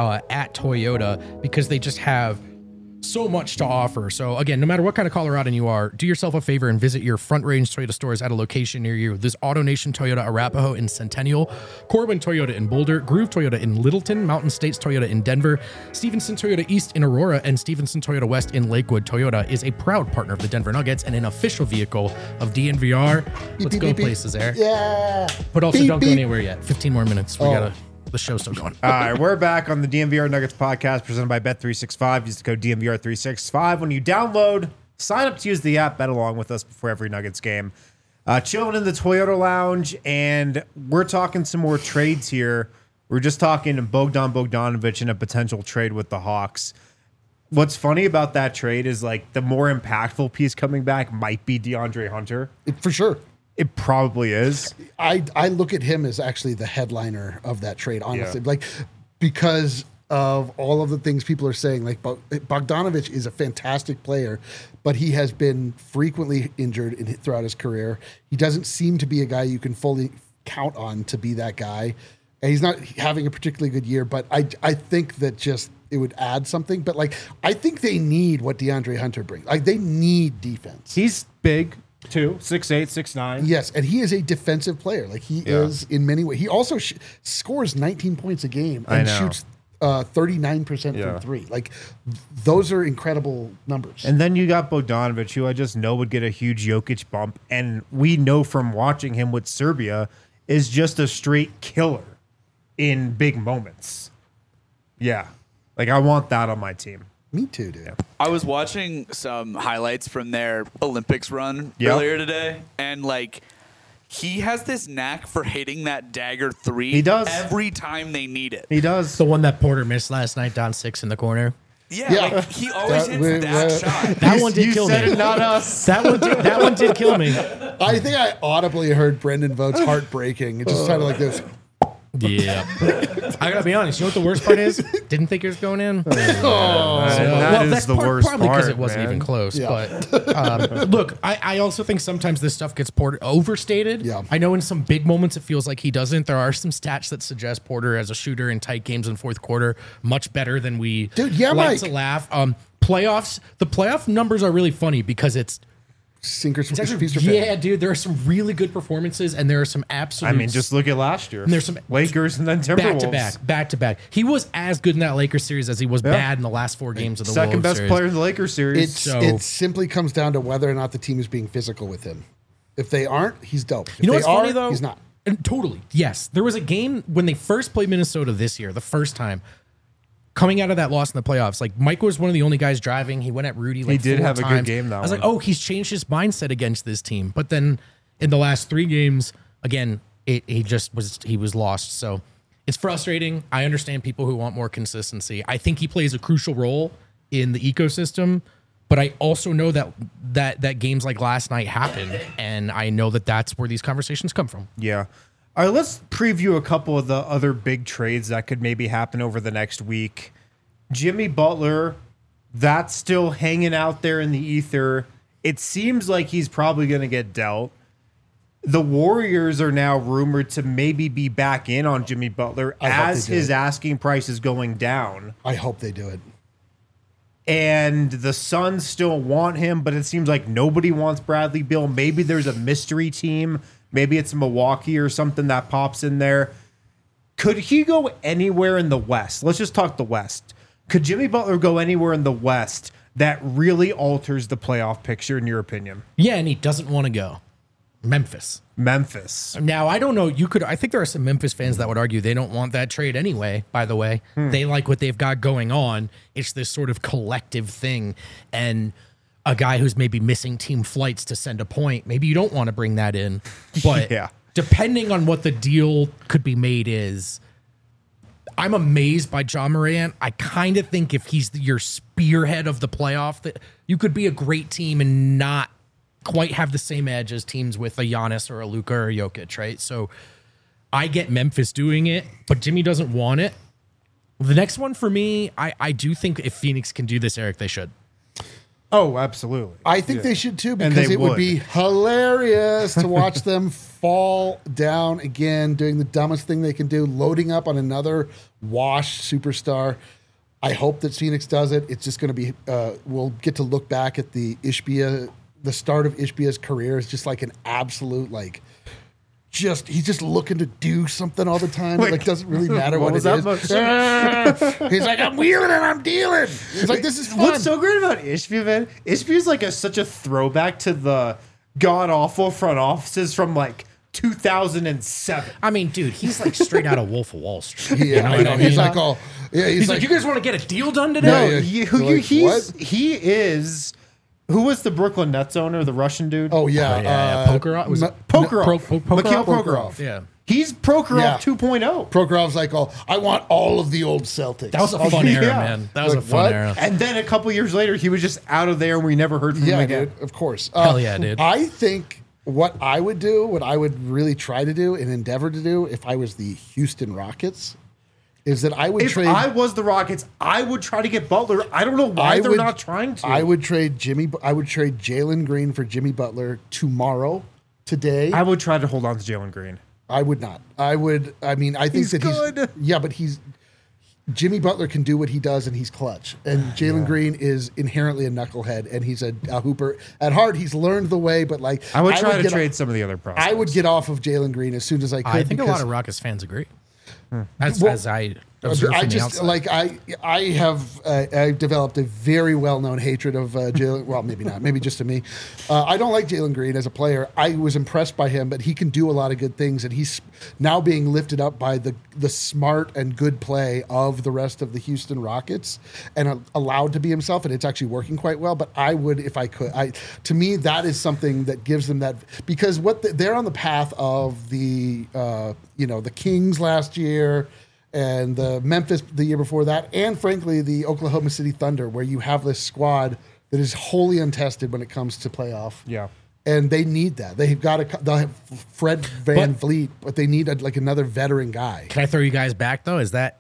at Toyota because they just have so much to offer. So again, no matter what kind of Coloradan you are, do yourself a favor and visit your Front Range Toyota stores at a location near you. There's AutoNation Toyota Arapahoe in Centennial, Corbin Toyota in Boulder, Groove Toyota in Littleton, Mountain States Toyota in Denver, Stevenson Toyota East in Aurora, and Stevenson Toyota West in Lakewood. Toyota is a proud partner of the Denver Nuggets and an official vehicle of DNVR. Let's beep, go beep, beep. places there. Yeah. But also Beep, don't go beep. anywhere yet. 15 more minutes. The show's still going. All right, we're back on the DNVR Nuggets podcast presented by Bet365. Use the code DNVR365 when you download. Sign up to use the app. Bet along with us before every Nuggets game. Chilling in the Toyota Lounge, and we're talking some more trades here. We're just talking to Bogdan Bogdanovic and a potential trade with the Hawks. What's funny about that trade is like the more impactful piece coming back might be DeAndre Hunter. For sure. It probably is. I look at him as actually the headliner of that trade, honestly. Like, because of all of the things people are saying, like Bogdanovic is a fantastic player, but he has been frequently injured throughout his career. He doesn't seem to be a guy you can fully count on to be that guy. And he's not having a particularly good year, but I think that just it would add something. But like, I think they need what DeAndre Hunter brings. Like, they need defense. He's big too, 6'8", 6'9". Yes, and he is a defensive player. Like, he is in many ways. He also scores 19 points a game and shoots 39% from three. Like, those are incredible numbers. And then you got Bogdanovic, who I just know would get a huge Jokic bump. And we know from watching him with Serbia is just a straight killer in big moments. Yeah. Like, I want that on my team. Me too, dude. I was watching some highlights from their Olympics run earlier today, and like, he has this knack for hitting that dagger three. He does. Every time they need it. He does. The one that Porter missed last night, down 6 in the corner. Yeah, like, he always hits that shot. That one did kill me. It, not us. That one did kill me. I think I audibly heard Brendan Vogt's heart breaking. It just sounded like this. Yeah. I gotta be honest. You know what the worst part is? Didn't think it was going in. That's the worst probably part, because it wasn't even close. Yeah. But look, I also think sometimes this stuff gets Porter overstated. Yeah. I know in some big moments it feels like he doesn't. There are some stats that suggest Porter as a shooter in tight games in fourth quarter much better than we like Mike. to laugh. Playoffs. The playoff numbers are really funny because it's Sinkers actually, feast or famine. yeah, dude. There are some really good performances, and there are some absolute. I mean, just look at last year. And there's some Lakers and then Timberwolves. back to back. He was as good in that Lakers series as he was bad in the last 4 games of the Second Wolves best series. player in the Lakers series. It simply comes down to whether or not the team is being physical with him. If they aren't, he's dope. If You know they what's are, funny though? he's not. And totally, yes. There was a game when they first played Minnesota this year, the first time. Coming out of that loss in the playoffs, like Mike was one of the only guys driving. He went at Rudy. Like, He did 4 have a good times. game that I was like, one. oh, he's changed his mindset against this team. But then in the last 3 games, again, he was lost. So it's frustrating. I understand people who want more consistency. I think he plays a crucial role in the ecosystem. But I also know that games like last night happen, and I know that that's where these conversations come from. Yeah. All right, let's preview a couple of the other big trades that could maybe happen over the next week. Jimmy Butler, that's still hanging out there in the ether. It seems like he's probably going to get dealt. The Warriors are now rumored to maybe be back in on Jimmy Butler as his asking price is going down. I hope they do it. And the Suns still want him, but it seems like nobody wants Bradley Beal. Maybe there's a mystery team. Maybe it's Milwaukee or something that pops in there. Could he go anywhere in the West? Let's just talk the West. Could Jimmy Butler go anywhere in the West that really alters the playoff picture, in your opinion? Yeah, and he doesn't want to go. Memphis. Now, I don't know. I think there are some Memphis fans that would argue they don't want that trade anyway, by the way. They like what they've got going on. It's this sort of collective thing. And a guy who's maybe missing team flights to send a point, maybe you don't want to bring that in. But depending on what the deal could be made is, I'm amazed by Ja Morant. I kind of think if he's your spearhead of the playoff, that you could be a great team and not quite have the same edge as teams with a Giannis or a Luka or a Jokic, right? So I get Memphis doing it, but Jimmy doesn't want it. The next one for me, I do think if Phoenix can do this, Eric, they should. Oh, absolutely. I think they should too, And because they it would would. be hilarious to watch them fall down again, doing the dumbest thing they can do, loading up on another washed superstar. I hope that Phoenix does it. It's just going to be, we'll get to look back at the start of Ishbia's career is just like an absolute, like, he's just looking to do something all the time. It like doesn't really matter what it is. He's like, I'm wheeling and I'm dealing. He's like, this is fun. What's so great about Ishbia, man? Ishbia's like such a throwback to the god awful front offices from like 2007. I mean, dude, he's like straight out of Wolf of Wall Street. Yeah, You know what I mean? he's like, oh, yeah, He's like, you guys want to get a deal done today? No, Yeah, yeah. You're like, he is Who was the Brooklyn Nets owner? The Russian dude. Oh yeah, Prokhorov? Was it Prokhorov. Mikhail Prokhorov. Yeah. He's Prokhorov Yeah. 2.0. Prokhorov's like, "Oh, I want all of the old Celtics." That was a fun era, yeah. man. That was Like, a fun what? era. And then a couple years later, he was just out of there, and we never heard from him Yeah, again. dude. Of course. Hell yeah, dude. I think what I would do, what I would really try to do and endeavor to do if I was the Houston Rockets, is that I would If trade. I was the Rockets, I would try to get Butler. I don't know why they're not trying to. I would trade Jalen Green for Jimmy Butler tomorrow, today. I would try to hold on to Jalen Green. I would not. I would. I mean, I think He's that good. Yeah, but Jimmy Butler can do what he does, and he's clutch. And Jalen Green is inherently a knucklehead, and he's a hooper. At heart, he's learned the way, but like I would try to get trade off- some of the other prospects. I would get off of Jalen Green as soon as I could. I think a lot because- of Rockets fans agree. As I I observe from the just outside. like I have I've developed a very well known hatred of Jalen. Well, maybe not. Maybe just to me. I don't like Jalen Green as a player. I was impressed by him, but he can do a lot of good things, and he's now being lifted up by the smart and good play of the rest of the Houston Rockets, and allowed to be himself. And it's actually working quite well. But I would, if I could, to me that is something that gives them that, because they're on the path of the the Kings last year. And the Memphis the year before that, and frankly, the Oklahoma City Thunder, where you have this squad that is wholly untested when it comes to playoff. Yeah. And they need that. They'll have Fred Van Vliet, but they need another veteran guy. Can I throw you guys back though? Is that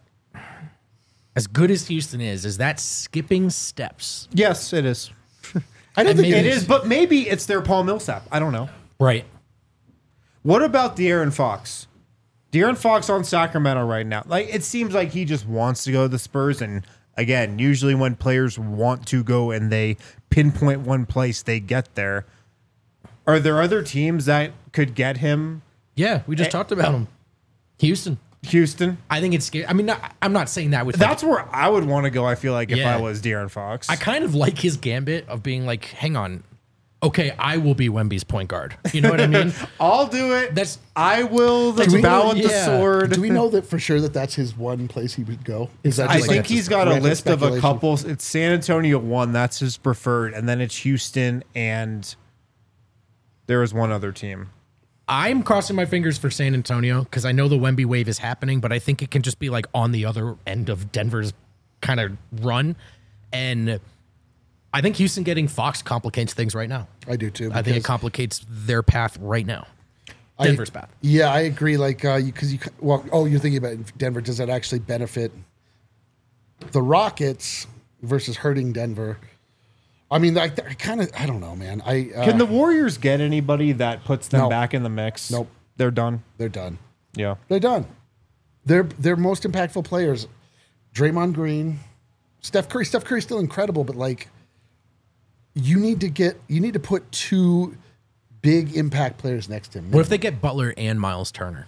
as good as Houston is that skipping steps? Yes, it is. I don't And think maybe- It is, but maybe it's their Paul Millsap. I don't know. Right. What about De'Aaron Fox? De'Aaron Fox on Sacramento right now. Like, it seems like he just wants to go to the Spurs. And again, usually when players want to go and they pinpoint one place, they get there. Are there other teams that could get him? Yeah, we just talked about him. Houston. Houston? I think it's scary. I mean, I'm not saying that with That's where I would want to go, I feel like, if Yeah. I was De'Aaron Fox. I kind of like his gambit of being like, hang on, okay, I will be Wemby's point guard. You know what I mean? I'll do it. That's- I will we- bow at the yeah. sword. Do we know that for sure that that's his one place he would go? Is that I just think like he's got a random list of a speculation? couple. It's San Antonio one. That's his preferred. And then it's Houston, and there is one other team. I'm crossing my fingers for San Antonio because I know the Wemby wave is happening, but I think it can just be like on the other end of Denver's kind of run. And I think Houston getting Fox complicates things right now. I do too. I think it because complicates their path right now. Denver's path. Yeah, I agree. Like, because you're thinking about Denver. Does that actually benefit the Rockets versus hurting Denver? I mean, I don't know, man. Can the Warriors get anybody that puts them No. back in the mix? Nope. They're done. they're done. Yeah. They're done. Their most impactful players, Draymond Green, Steph Curry. Steph Curry's still incredible, but like, you need to put two big impact players next to him. What if they get Butler and Miles Turner?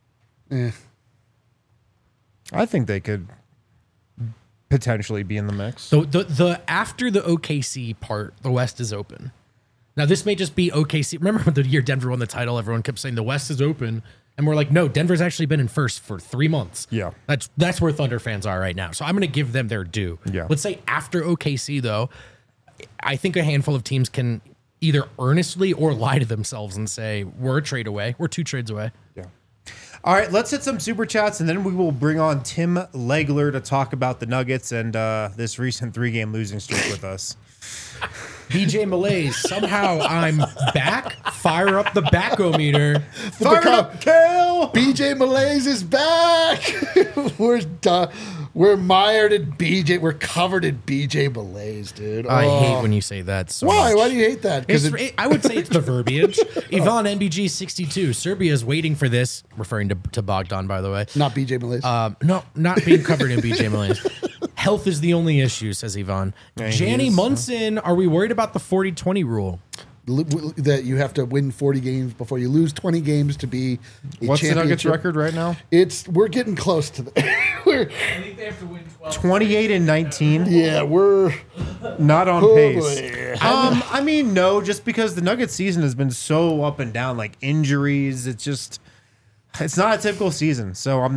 I think they could potentially be in the mix. So the after the OKC part, the West is open. Now this may just be OKC. Remember the year Denver won the title? Everyone kept saying the West is open, and we're like, no, Denver's actually been in first for 3 months. Yeah. that's where Thunder fans are right now. So I'm going to give them their due. Yeah. Let's say after OKC though, I think a handful of teams can either earnestly or lie to themselves and say we're a trade away, we're 2 trades away. Yeah. All right, let's hit some super chats, and then we will bring on Tim Legler to talk about the Nuggets and this recent 3-game losing streak with us. BJ Malaise, somehow I'm back. Fire up the backometer. Fire up, Kale! BJ Malaise is back. We're done. We're mired in BJ. We're covered in BJ Malaise, dude. I Oh. hate when you say that. So Why? much. Why do you hate that? Because I would say it's the verbiage. Ivan NBG 62. Serbia is waiting for this, referring to Bogdan, by the way. not BJ Malaise. No, not being covered in BJ Malaise. Health is the only issue, says Ivan. Janny Munson, are we worried about the 40-20 rule? That you have to win 40 games before you lose 20 games to be a What's the Nuggets championship. record right now? We're getting close to the. I think they have to win 12. 28 and 19. Yeah, we're Not on pace. boy. I mean, no, just because the Nuggets season has been so up and down, like injuries. It's not a typical season. So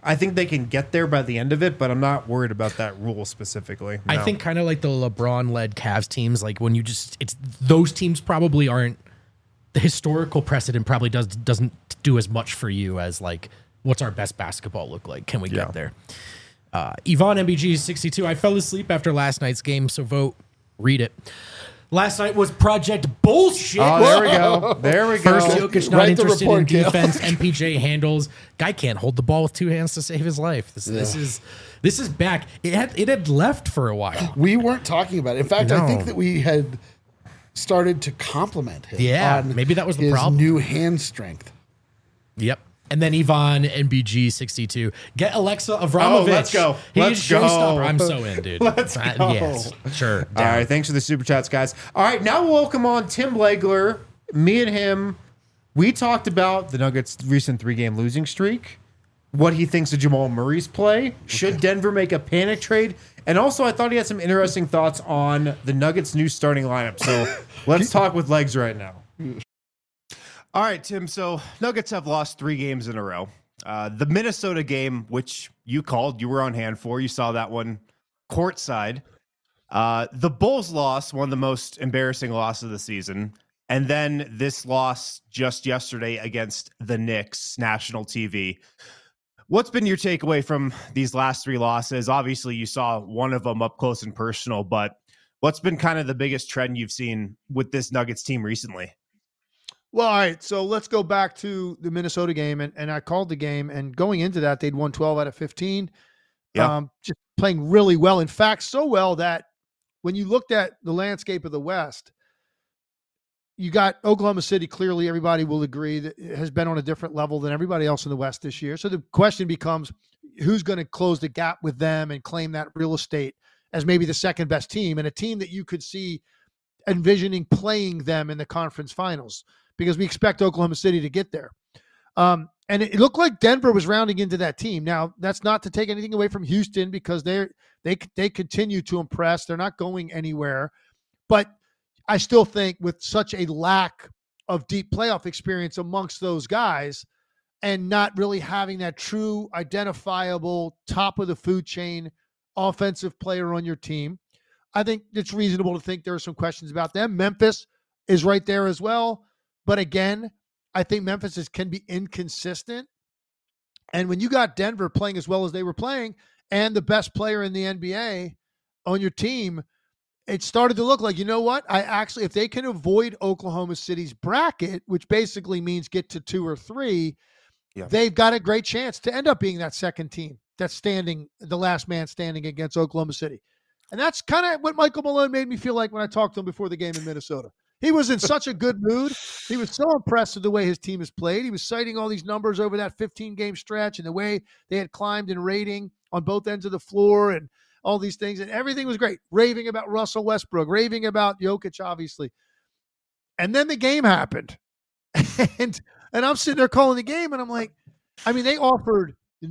I think they can get there by the end of it, but I'm not worried about that rule specifically. I think kind of like the LeBron-led Cavs teams, like when you just it's those teams probably aren't the historical precedent probably doesn't do as much for you as like what's our best basketball look like? Can we get there? Yvonne MBG 62. I fell asleep after last night's game, so vote. Read it. Last night was Project Bullshit. Oh, there we go. There we go. First, Jokic not interested in defense. MPJ handles. Guy can't hold the ball with two hands to save his life. This is back. It had left for a while. We weren't talking about it. In fact, I think that we had started to compliment him. Yeah, on maybe that was the his problem. New hand strength. Yep. And then Yvonne NBG 62. Get Alexa Avramovich. Oh, let's go. He's Let's go. showstopper. I'm so in, dude. Let's go. Yes, sure. All down. right, thanks for the super chats, guys. All right, now we'll welcome on Tim Legler. Me and him, we talked about the Nuggets' recent 3-game losing streak, what he thinks of Jamal Murray's play, should Denver make a panic trade, and also I thought he had some interesting thoughts on the Nuggets' new starting lineup. So let's talk with Legs right now. All right, Tim. So Nuggets have lost 3 games in a row. The Minnesota game, which you called, you were on hand for. You saw that one courtside. The Bulls loss, one of the most embarrassing losses of the season. And then this loss just yesterday against the Knicks, national TV. What's been your takeaway from these last 3 losses? Obviously, you saw one of them up close and personal, but what's been kind of the biggest trend you've seen with this Nuggets team recently? Well, all right, so let's go back to the Minnesota game, and I called the game, and going into that, they'd won 12 out of 15, just playing really well. In fact, so well that when you looked at the landscape of the West, you got Oklahoma City, clearly everybody will agree, that it has been on a different level than everybody else in the West this year. So the question becomes, who's going to close the gap with them and claim that real estate as maybe the second best team, and a team that you could see envisioning playing them in the conference finals, because we expect Oklahoma City to get there. And it looked like Denver was rounding into that team. Now, that's not to take anything away from Houston, because they continue to impress. They're not going anywhere. But I still think with such a lack of deep playoff experience amongst those guys, and not really having that true identifiable top of the food chain offensive player on your team, I think it's reasonable to think there are some questions about them. Memphis is right there as well. But again, I think Memphis can be inconsistent. And when you got Denver playing as well as they were playing, and the best player in the NBA on your team, it started to look like, you know what? If they can avoid Oklahoma City's bracket, which basically means get to 2 or 3, they've got a great chance to end up being that second team that's standing, the last man standing against Oklahoma City. And that's kind of what Michael Malone made me feel like when I talked to him before the game in Minnesota. He was in such a good mood. He was so impressed with the way his team has played. He was citing all these numbers over that 15-game stretch and the way they had climbed in rating on both ends of the floor and all these things. And everything was great. Raving about Russell Westbrook, raving about Jokic, obviously. And then the game happened. and I'm sitting there calling the game, and I'm like, they offered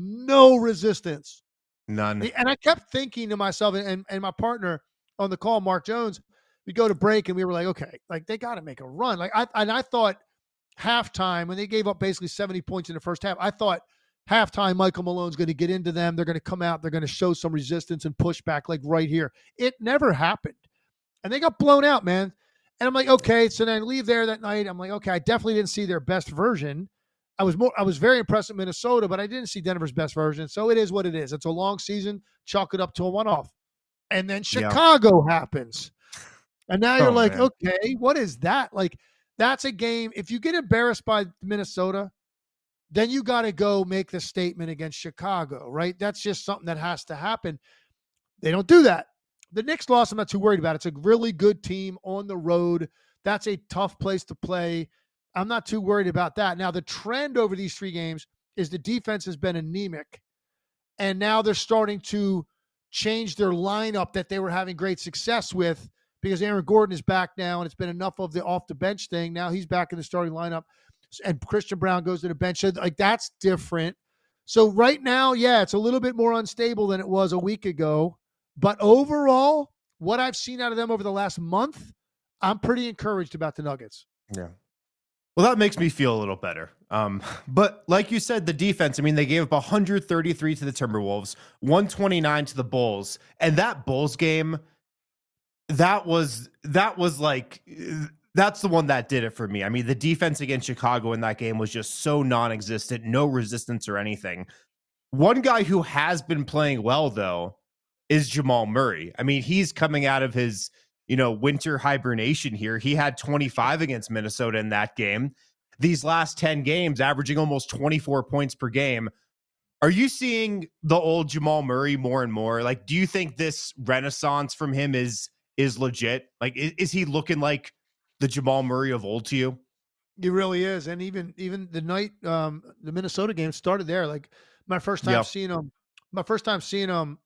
no resistance. None. And I kept thinking to myself, and my partner on the call, Mark Jones, we go to break and we were like, okay, like they got to make a run. Like I thought halftime, when they gave up basically 70 points in the first half, I thought halftime Michael Malone's going to get into them. They're going to come out. They're going to show some resistance and push back like right here. It never happened. And they got blown out, man. And I'm like, okay. So then I leave there that night. I'm like, okay, I definitely didn't see their best version. I was very impressed with Minnesota, but I didn't see Denver's best version. So it is what it is. It's a long season. Chalk it up to a one-off. And then Chicago happens. And now you're like, man, okay, what is that? Like, that's a game. If you get embarrassed by Minnesota, then you got to go make the statement against Chicago, right? That's just something that has to happen. They don't do that. The Knicks loss, I'm not too worried about. It's a really good team on the road. That's a tough place to play. I'm not too worried about that. Now, the trend over these 3 games is the defense has been anemic, and now they're starting to change their lineup that they were having great success with, because Aaron Gordon is back now, and it's been enough of the off-the-bench thing. Now he's back in the starting lineup, and Christian Brown goes to the bench. So, like, that's different. So right now, it's a little bit more unstable than it was a week ago. But overall, what I've seen out of them over the last month, I'm pretty encouraged about the Nuggets. Yeah. Well, that makes me feel a little better. But like you said, the defense, I mean, they gave up 133 to the Timberwolves, 129 to the Bulls. And that Bulls game, that was like, that's the one that did it for me. I mean, the defense against Chicago in that game was just so non-existent, no resistance or anything. One guy who has been playing well, though, is Jamal Murray. I mean, he's coming out of his, winter hibernation here. He had 25 against Minnesota in that game. These last 10 games, averaging almost 24 points per game. Are you seeing the old Jamal Murray more and more? Like, do you think this renaissance from him is legit? Like, is he looking like the Jamal Murray of old to you? He really is. And even the night the Minnesota game started there. Like my first time seeing him,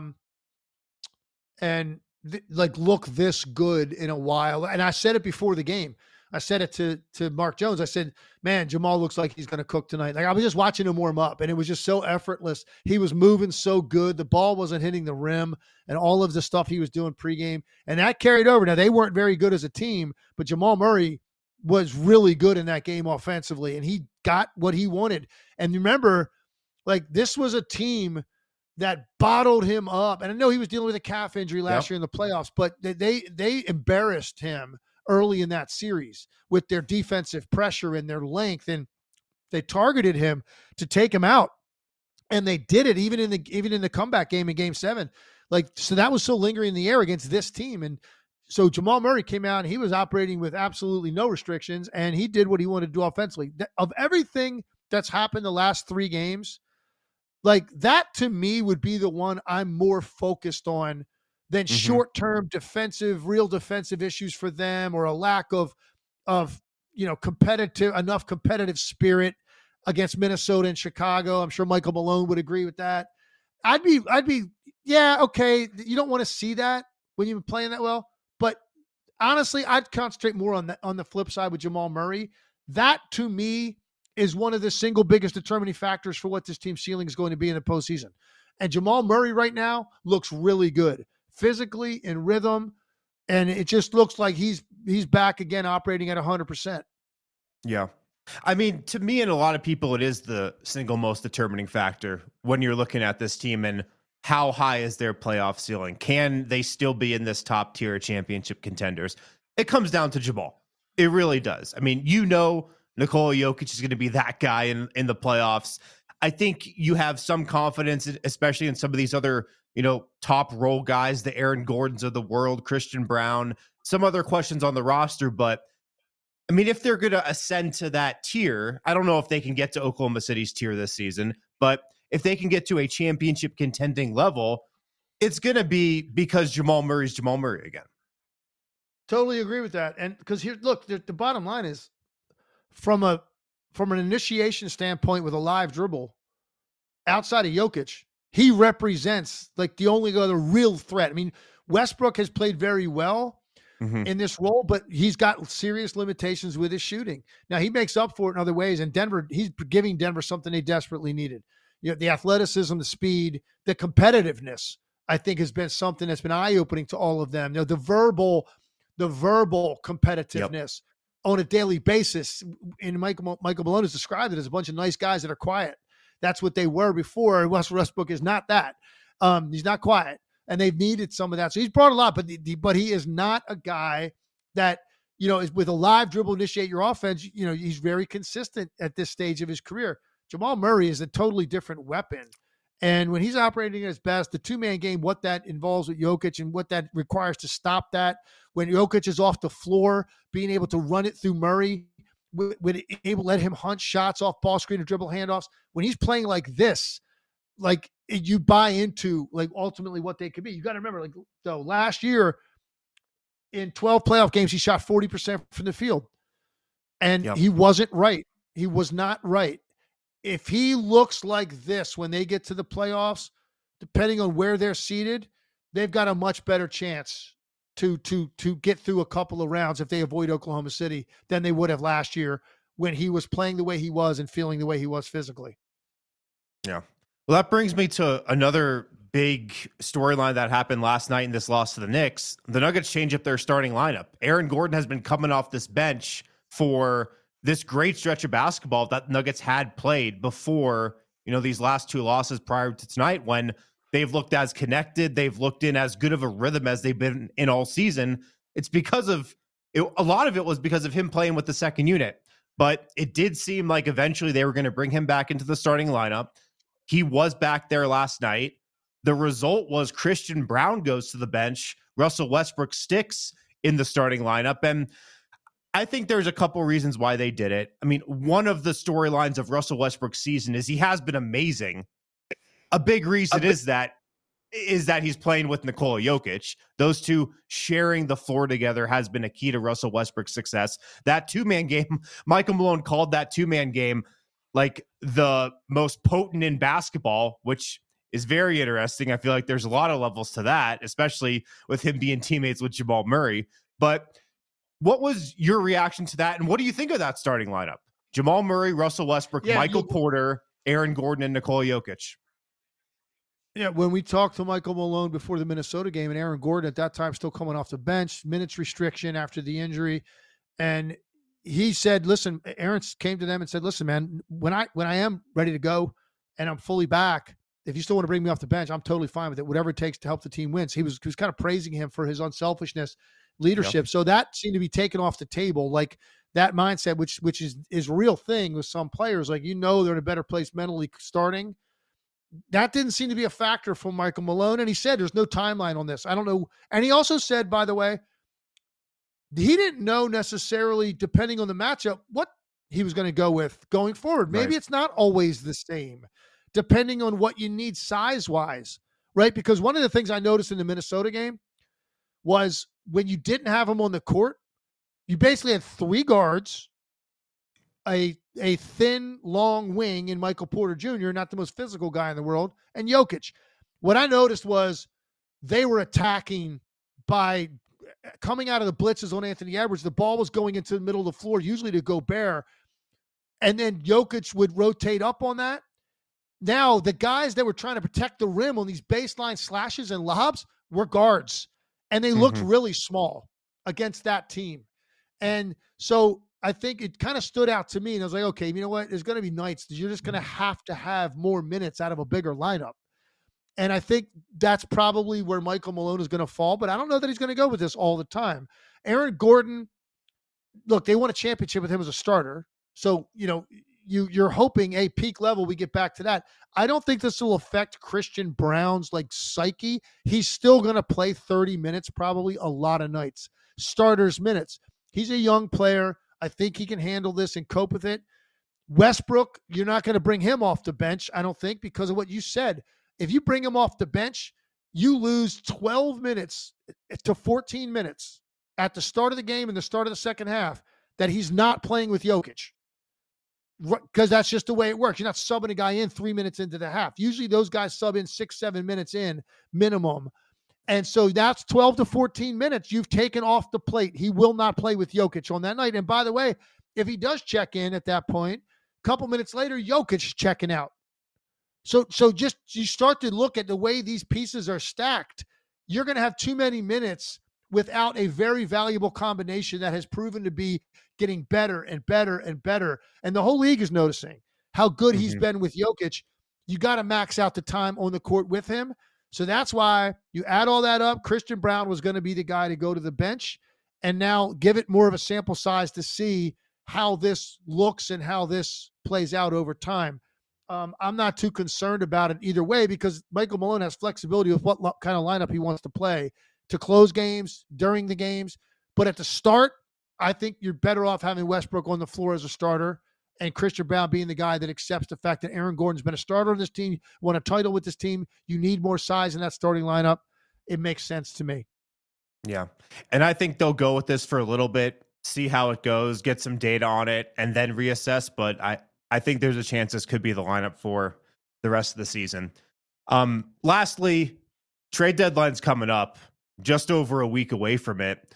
and look this good in a while. And I said it before the game. I said it to Mark Jones. I said, man, Jamal looks like he's going to cook tonight. Like I was just watching him warm up and it was just so effortless. He was moving so good. The ball wasn't hitting the rim and all of the stuff he was doing pregame. And that carried over. Now they weren't very good as a team, but Jamal Murray was really good in that game offensively and he got what he wanted. And remember, like this was a team that bottled him up. And I know he was dealing with a calf injury last year in the playoffs, but they embarrassed him early in that series with their defensive pressure and their length. And they targeted him to take him out. And they did it even in the comeback game in Game 7. So that was still lingering in the air against this team. And so Jamal Murray came out and he was operating with absolutely no restrictions and he did what he wanted to do offensively. Of everything that's happened the last 3 games, like that to me would be the one I'm more focused on than short-term real defensive issues for them or a lack of competitive spirit against Minnesota and Chicago. I'm sure Michael Malone would agree with that. I'd be, yeah, okay. You don't want to see that when you've been playing that well, but honestly, I'd concentrate more on the flip side with Jamal Murray. That to me is one of the single biggest determining factors for what this team's ceiling is going to be in the postseason. And Jamal Murray right now looks really good. Physically in rhythm, and it just looks like he's back again operating at 100%. Yeah. I mean, to me and a lot of people, it is the single most determining factor when you're looking at this team and how high is their playoff ceiling? Can they still be in this top tier championship contenders? It comes down to Jamal. It really does. I mean, Nikola Jokic is going to be that guy in the playoffs. I think you have some confidence, especially in some of these other top role guys, the Aaron Gordons of the world, Christian Brown, some other questions on the roster. But I mean, if they're going to ascend to that tier, I don't know if they can get to Oklahoma City's tier this season, but if they can get to a championship contending level, it's going to be because Jamal Murray's Jamal Murray again. Totally agree with that. And because here, look, the bottom line is from an initiation standpoint with a live dribble outside of Jokic, he represents like the only other real threat. I mean, Westbrook has played very well in this role, but he's got serious limitations with his shooting. Now he makes up for it in other ways. And he's giving Denver something they desperately needed. The athleticism, the speed, the competitiveness, I think has been something that's been eye-opening to all of them. The verbal competitiveness on a daily basis. And Michael Malone has described it as a bunch of nice guys that are quiet. That's what they were before. Westbrook is not that. He's not quiet, and they've needed some of that. So he's brought a lot, but he is not a guy that is with a live dribble initiate your offense. He's very consistent at this stage of his career. Jamal Murray is a totally different weapon, and when he's operating at his best, the 2-man game, what that involves with Jokic and what that requires to stop that. When Jokic is off the floor, being able to run it through Murray. Would able to let him hunt shots off ball screen or dribble handoffs. When he's playing like this, like you buy into like ultimately what they could be. You got to remember, like though last year in 12 playoff games, he shot 40% from the field, and he wasn't right. He was not right. If he looks like this when they get to the playoffs, depending on where they're seated, they've got a much better chance to get through a couple of rounds if they avoid Oklahoma City than they would have last year when he was playing the way he was and feeling the way he was physically. Yeah. Well, that brings me to another big storyline that happened last night in this loss to the Knicks. The Nuggets change up their starting lineup. Aaron Gordon has been coming off this bench for this great stretch of basketball that Nuggets had played before, these last two losses prior to tonight, when they've looked as connected, they've looked in as good of a rhythm as they've been in all season. It's because of it. A lot of it was because of him playing with the second unit, but it did seem like eventually they were going to bring him back into the starting lineup. He was back there last night. The result was Christian Braun goes to the bench. Russell Westbrook sticks in the starting lineup. And I think there's a couple reasons why they did it. I mean, one of the storylines of Russell Westbrook's season is he has been amazing. A big reason is that he's playing with Nikola Jokic. Those two sharing the floor together has been a key to Russell Westbrook's success. That two-man game, Michael Malone called that two-man game like the most potent in basketball, which is very interesting. I feel like there's a lot of levels to that, especially with him being teammates with Jamal Murray. But what was your reaction to that? And what do you think of that starting lineup? Jamal Murray, Russell Westbrook, Michael Porter, Aaron Gordon, and Nikola Jokic. Yeah, when we talked to Michael Malone before the Minnesota game, and Aaron Gordon at that time still coming off the bench, minutes restriction after the injury, and he said, listen, Aaron came to them and said, listen, man, when I am ready to go and I'm fully back, if you still want to bring me off the bench, I'm totally fine with it. Whatever it takes to help the team win. So he was kind of praising him for his unselfishness, leadership. Yep. So that seemed to be taken off the table. Like that mindset, which is a real thing with some players, like, they're in a better place mentally starting. That didn't seem to be a factor for Michael Malone. And he said, there's no timeline on this. I don't know. And he also said, by the way, he didn't know necessarily, depending on the matchup, what he was going to go with going forward. Maybe It's not always the same, depending on what you need size-wise, right? Because one of the things I noticed in the Minnesota game was when you didn't have him on the court, you basically had three guards, a thin, long wing in Michael Porter Jr., not the most physical guy in the world, and Jokic. What I noticed was they were attacking by coming out of the blitzes on Anthony Edwards. The ball was going into the middle of the floor, usually to Gobert, and then Jokic would rotate up on that. Now, the guys that were trying to protect the rim on these baseline slashes and lobs were guards, and they looked really small against that team. And so I think it kind of stood out to me, and I was like, okay, you know what? There's going to be nights that you're just going to have more minutes out of a bigger lineup. And I think that's probably where Michael Malone is going to fall, but I don't know that he's going to go with this all the time. Aaron Gordon, look, they won a championship with him as a starter. So, you're hoping a peak level, we get back to that. I don't think this will affect Christian Braun's psyche. He's still going to play 30 minutes, probably a lot of nights, starters minutes. He's a young player. I think he can handle this and cope with it. Westbrook, you're not going to bring him off the bench, I don't think, because of what you said. If you bring him off the bench, you lose 12 minutes to 14 minutes at the start of the game and the start of the second half that he's not playing with Jokic. Because that's just the way it works. You're not subbing a guy in 3 minutes into the half. Usually those guys sub in 6-7 minutes in minimum. And so that's 12 to 14 minutes you've taken off the plate. He will not play with Jokic on that night. And by the way, if he does check in at that point, a couple minutes later, Jokic is checking out. So just you start to look at the way these pieces are stacked. You're going to have too many minutes without a very valuable combination that has proven to be getting better and better and better. And the whole league is noticing how good he's been with Jokic. You got to max out the time on the court with him. So that's why you add all that up. Christian Braun was going to be the guy to go to the bench, and now give it more of a sample size to see how this looks and how this plays out over time. I'm not too concerned about it either way, because Michael Malone has flexibility with what kind of lineup he wants to play to close games, during the games. But at the start, I think you're better off having Westbrook on the floor as a starter and Christian Braun being the guy that accepts the fact that Aaron Gordon's been a starter on this team, won a title with this team. You need more size in that starting lineup. It makes sense to me. Yeah. And I think they'll go with this for a little bit, see how it goes, get some data on it, and then reassess. But I think there's a chance this could be the lineup for the rest of the season. Lastly, trade deadline's coming up, just over a week away from it.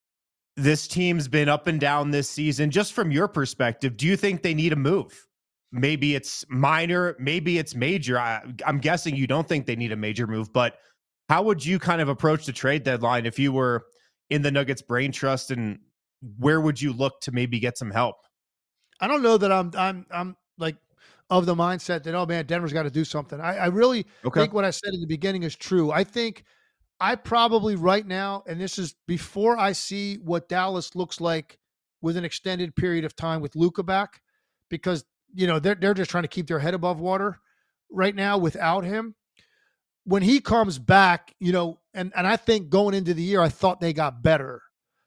This team's been up and down this season. Just from your perspective, do you think they need a move? Maybe it's minor, maybe it's major. I'm guessing you don't think they need a major move, but how would you kind of approach the trade deadline if you were in the Nuggets brain trust, and where would you look to maybe get some help? I don't know that I'm like of the mindset that, oh man, Denver's got to do something. I really think what I said in the beginning is true. I think I probably right now, and this is before I see what Dallas looks like with an extended period of time with Luka back, because they're just trying to keep their head above water right now without him. When he comes back, and I think going into the year, I thought they got better,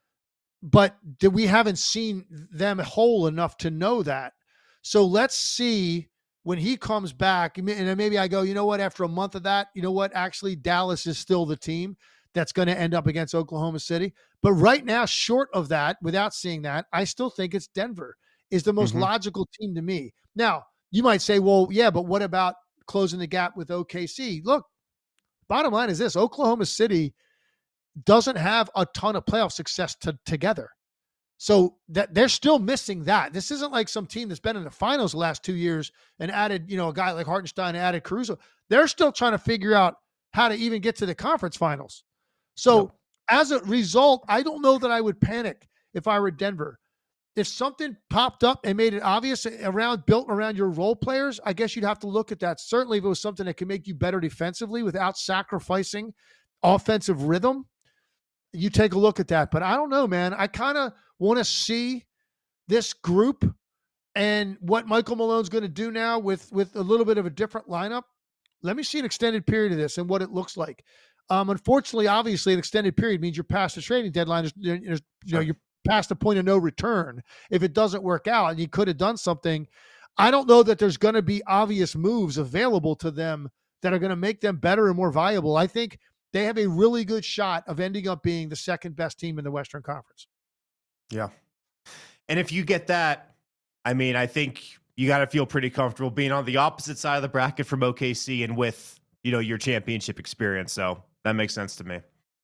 but we haven't seen them whole enough to know that. So let's see when he comes back, and then maybe I go, you know what, after a month of that, actually Dallas is still the team that's going to end up against Oklahoma City. But right now, short of that, without seeing that, I still think it's Denver is the most logical team to me. Now, you might say, well, yeah, but what about closing the gap with OKC? Look, bottom line is this: Oklahoma City doesn't have a ton of playoff success together. So that they're still missing that. This isn't like some team that's been in the finals the last 2 years and added, a guy like Hartenstein, added Caruso. They're still trying to figure out how to even get to the conference finals. So as a result, I don't know that I would panic if I were Denver. If something popped up and made it obvious built around your role players, I guess you'd have to look at that. Certainly if it was something that can make you better defensively without sacrificing offensive rhythm, you take a look at that. But I don't know, man. I kind of want to see this group and what Michael Malone's going to do now with a little bit of a different lineup. Let me see an extended period of this and what it looks like. Unfortunately, obviously, an extended period means you're past the trading deadline. You're past the point of no return. If it doesn't work out and you could have done something, I don't know that there's going to be obvious moves available to them that are going to make them better and more viable. I think they have a really good shot of ending up being the second best team in the Western Conference. Yeah. And if you get that, I mean, I think you got to feel pretty comfortable being on the opposite side of the bracket from OKC and with, your championship experience. So that makes sense to me.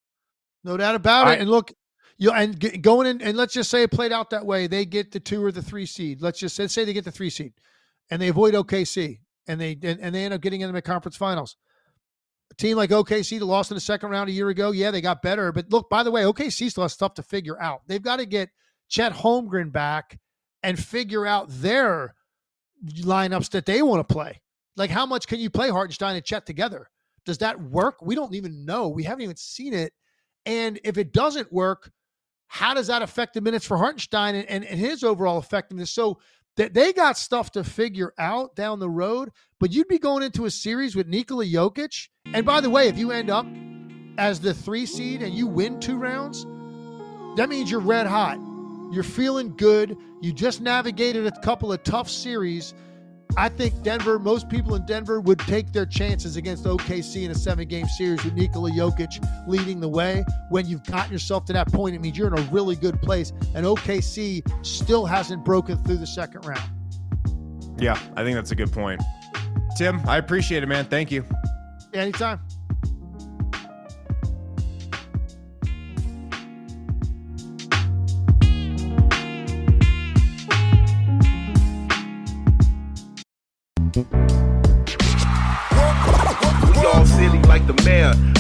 No doubt about it. And look, going in, and let's just say it played out that way. They get the 2 or the 3 seed. Let's say they get the 3 seed and they avoid OKC and they end up getting into the conference finals. A team like OKC that lost in the second round a year ago, yeah, they got better. But look, by the way, OKC still has stuff to figure out. They've got to get Chet Holmgren back and figure out their lineups that they want to play. Like, how much can you play Hartenstein and Chet together? Does that work? We don't even know. We haven't even seen it. And if it doesn't work, how does that affect the minutes for Hartenstein and his overall effectiveness? So they got stuff to figure out down the road, but you'd be going into a series with Nikola Jokic. And by the way, if you end up as the 3 seed and you win 2 rounds, that means you're red hot. You're feeling good. You just navigated a couple of tough series. I think most people in Denver would take their chances against OKC in a 7-game series with Nikola Jokic leading the way. When you've gotten yourself to that point, it means you're in a really good place. And OKC still hasn't broken through the second round. Yeah, I think that's a good point. Tim, I appreciate it, man. Thank you. Anytime. We all silly like the mayor.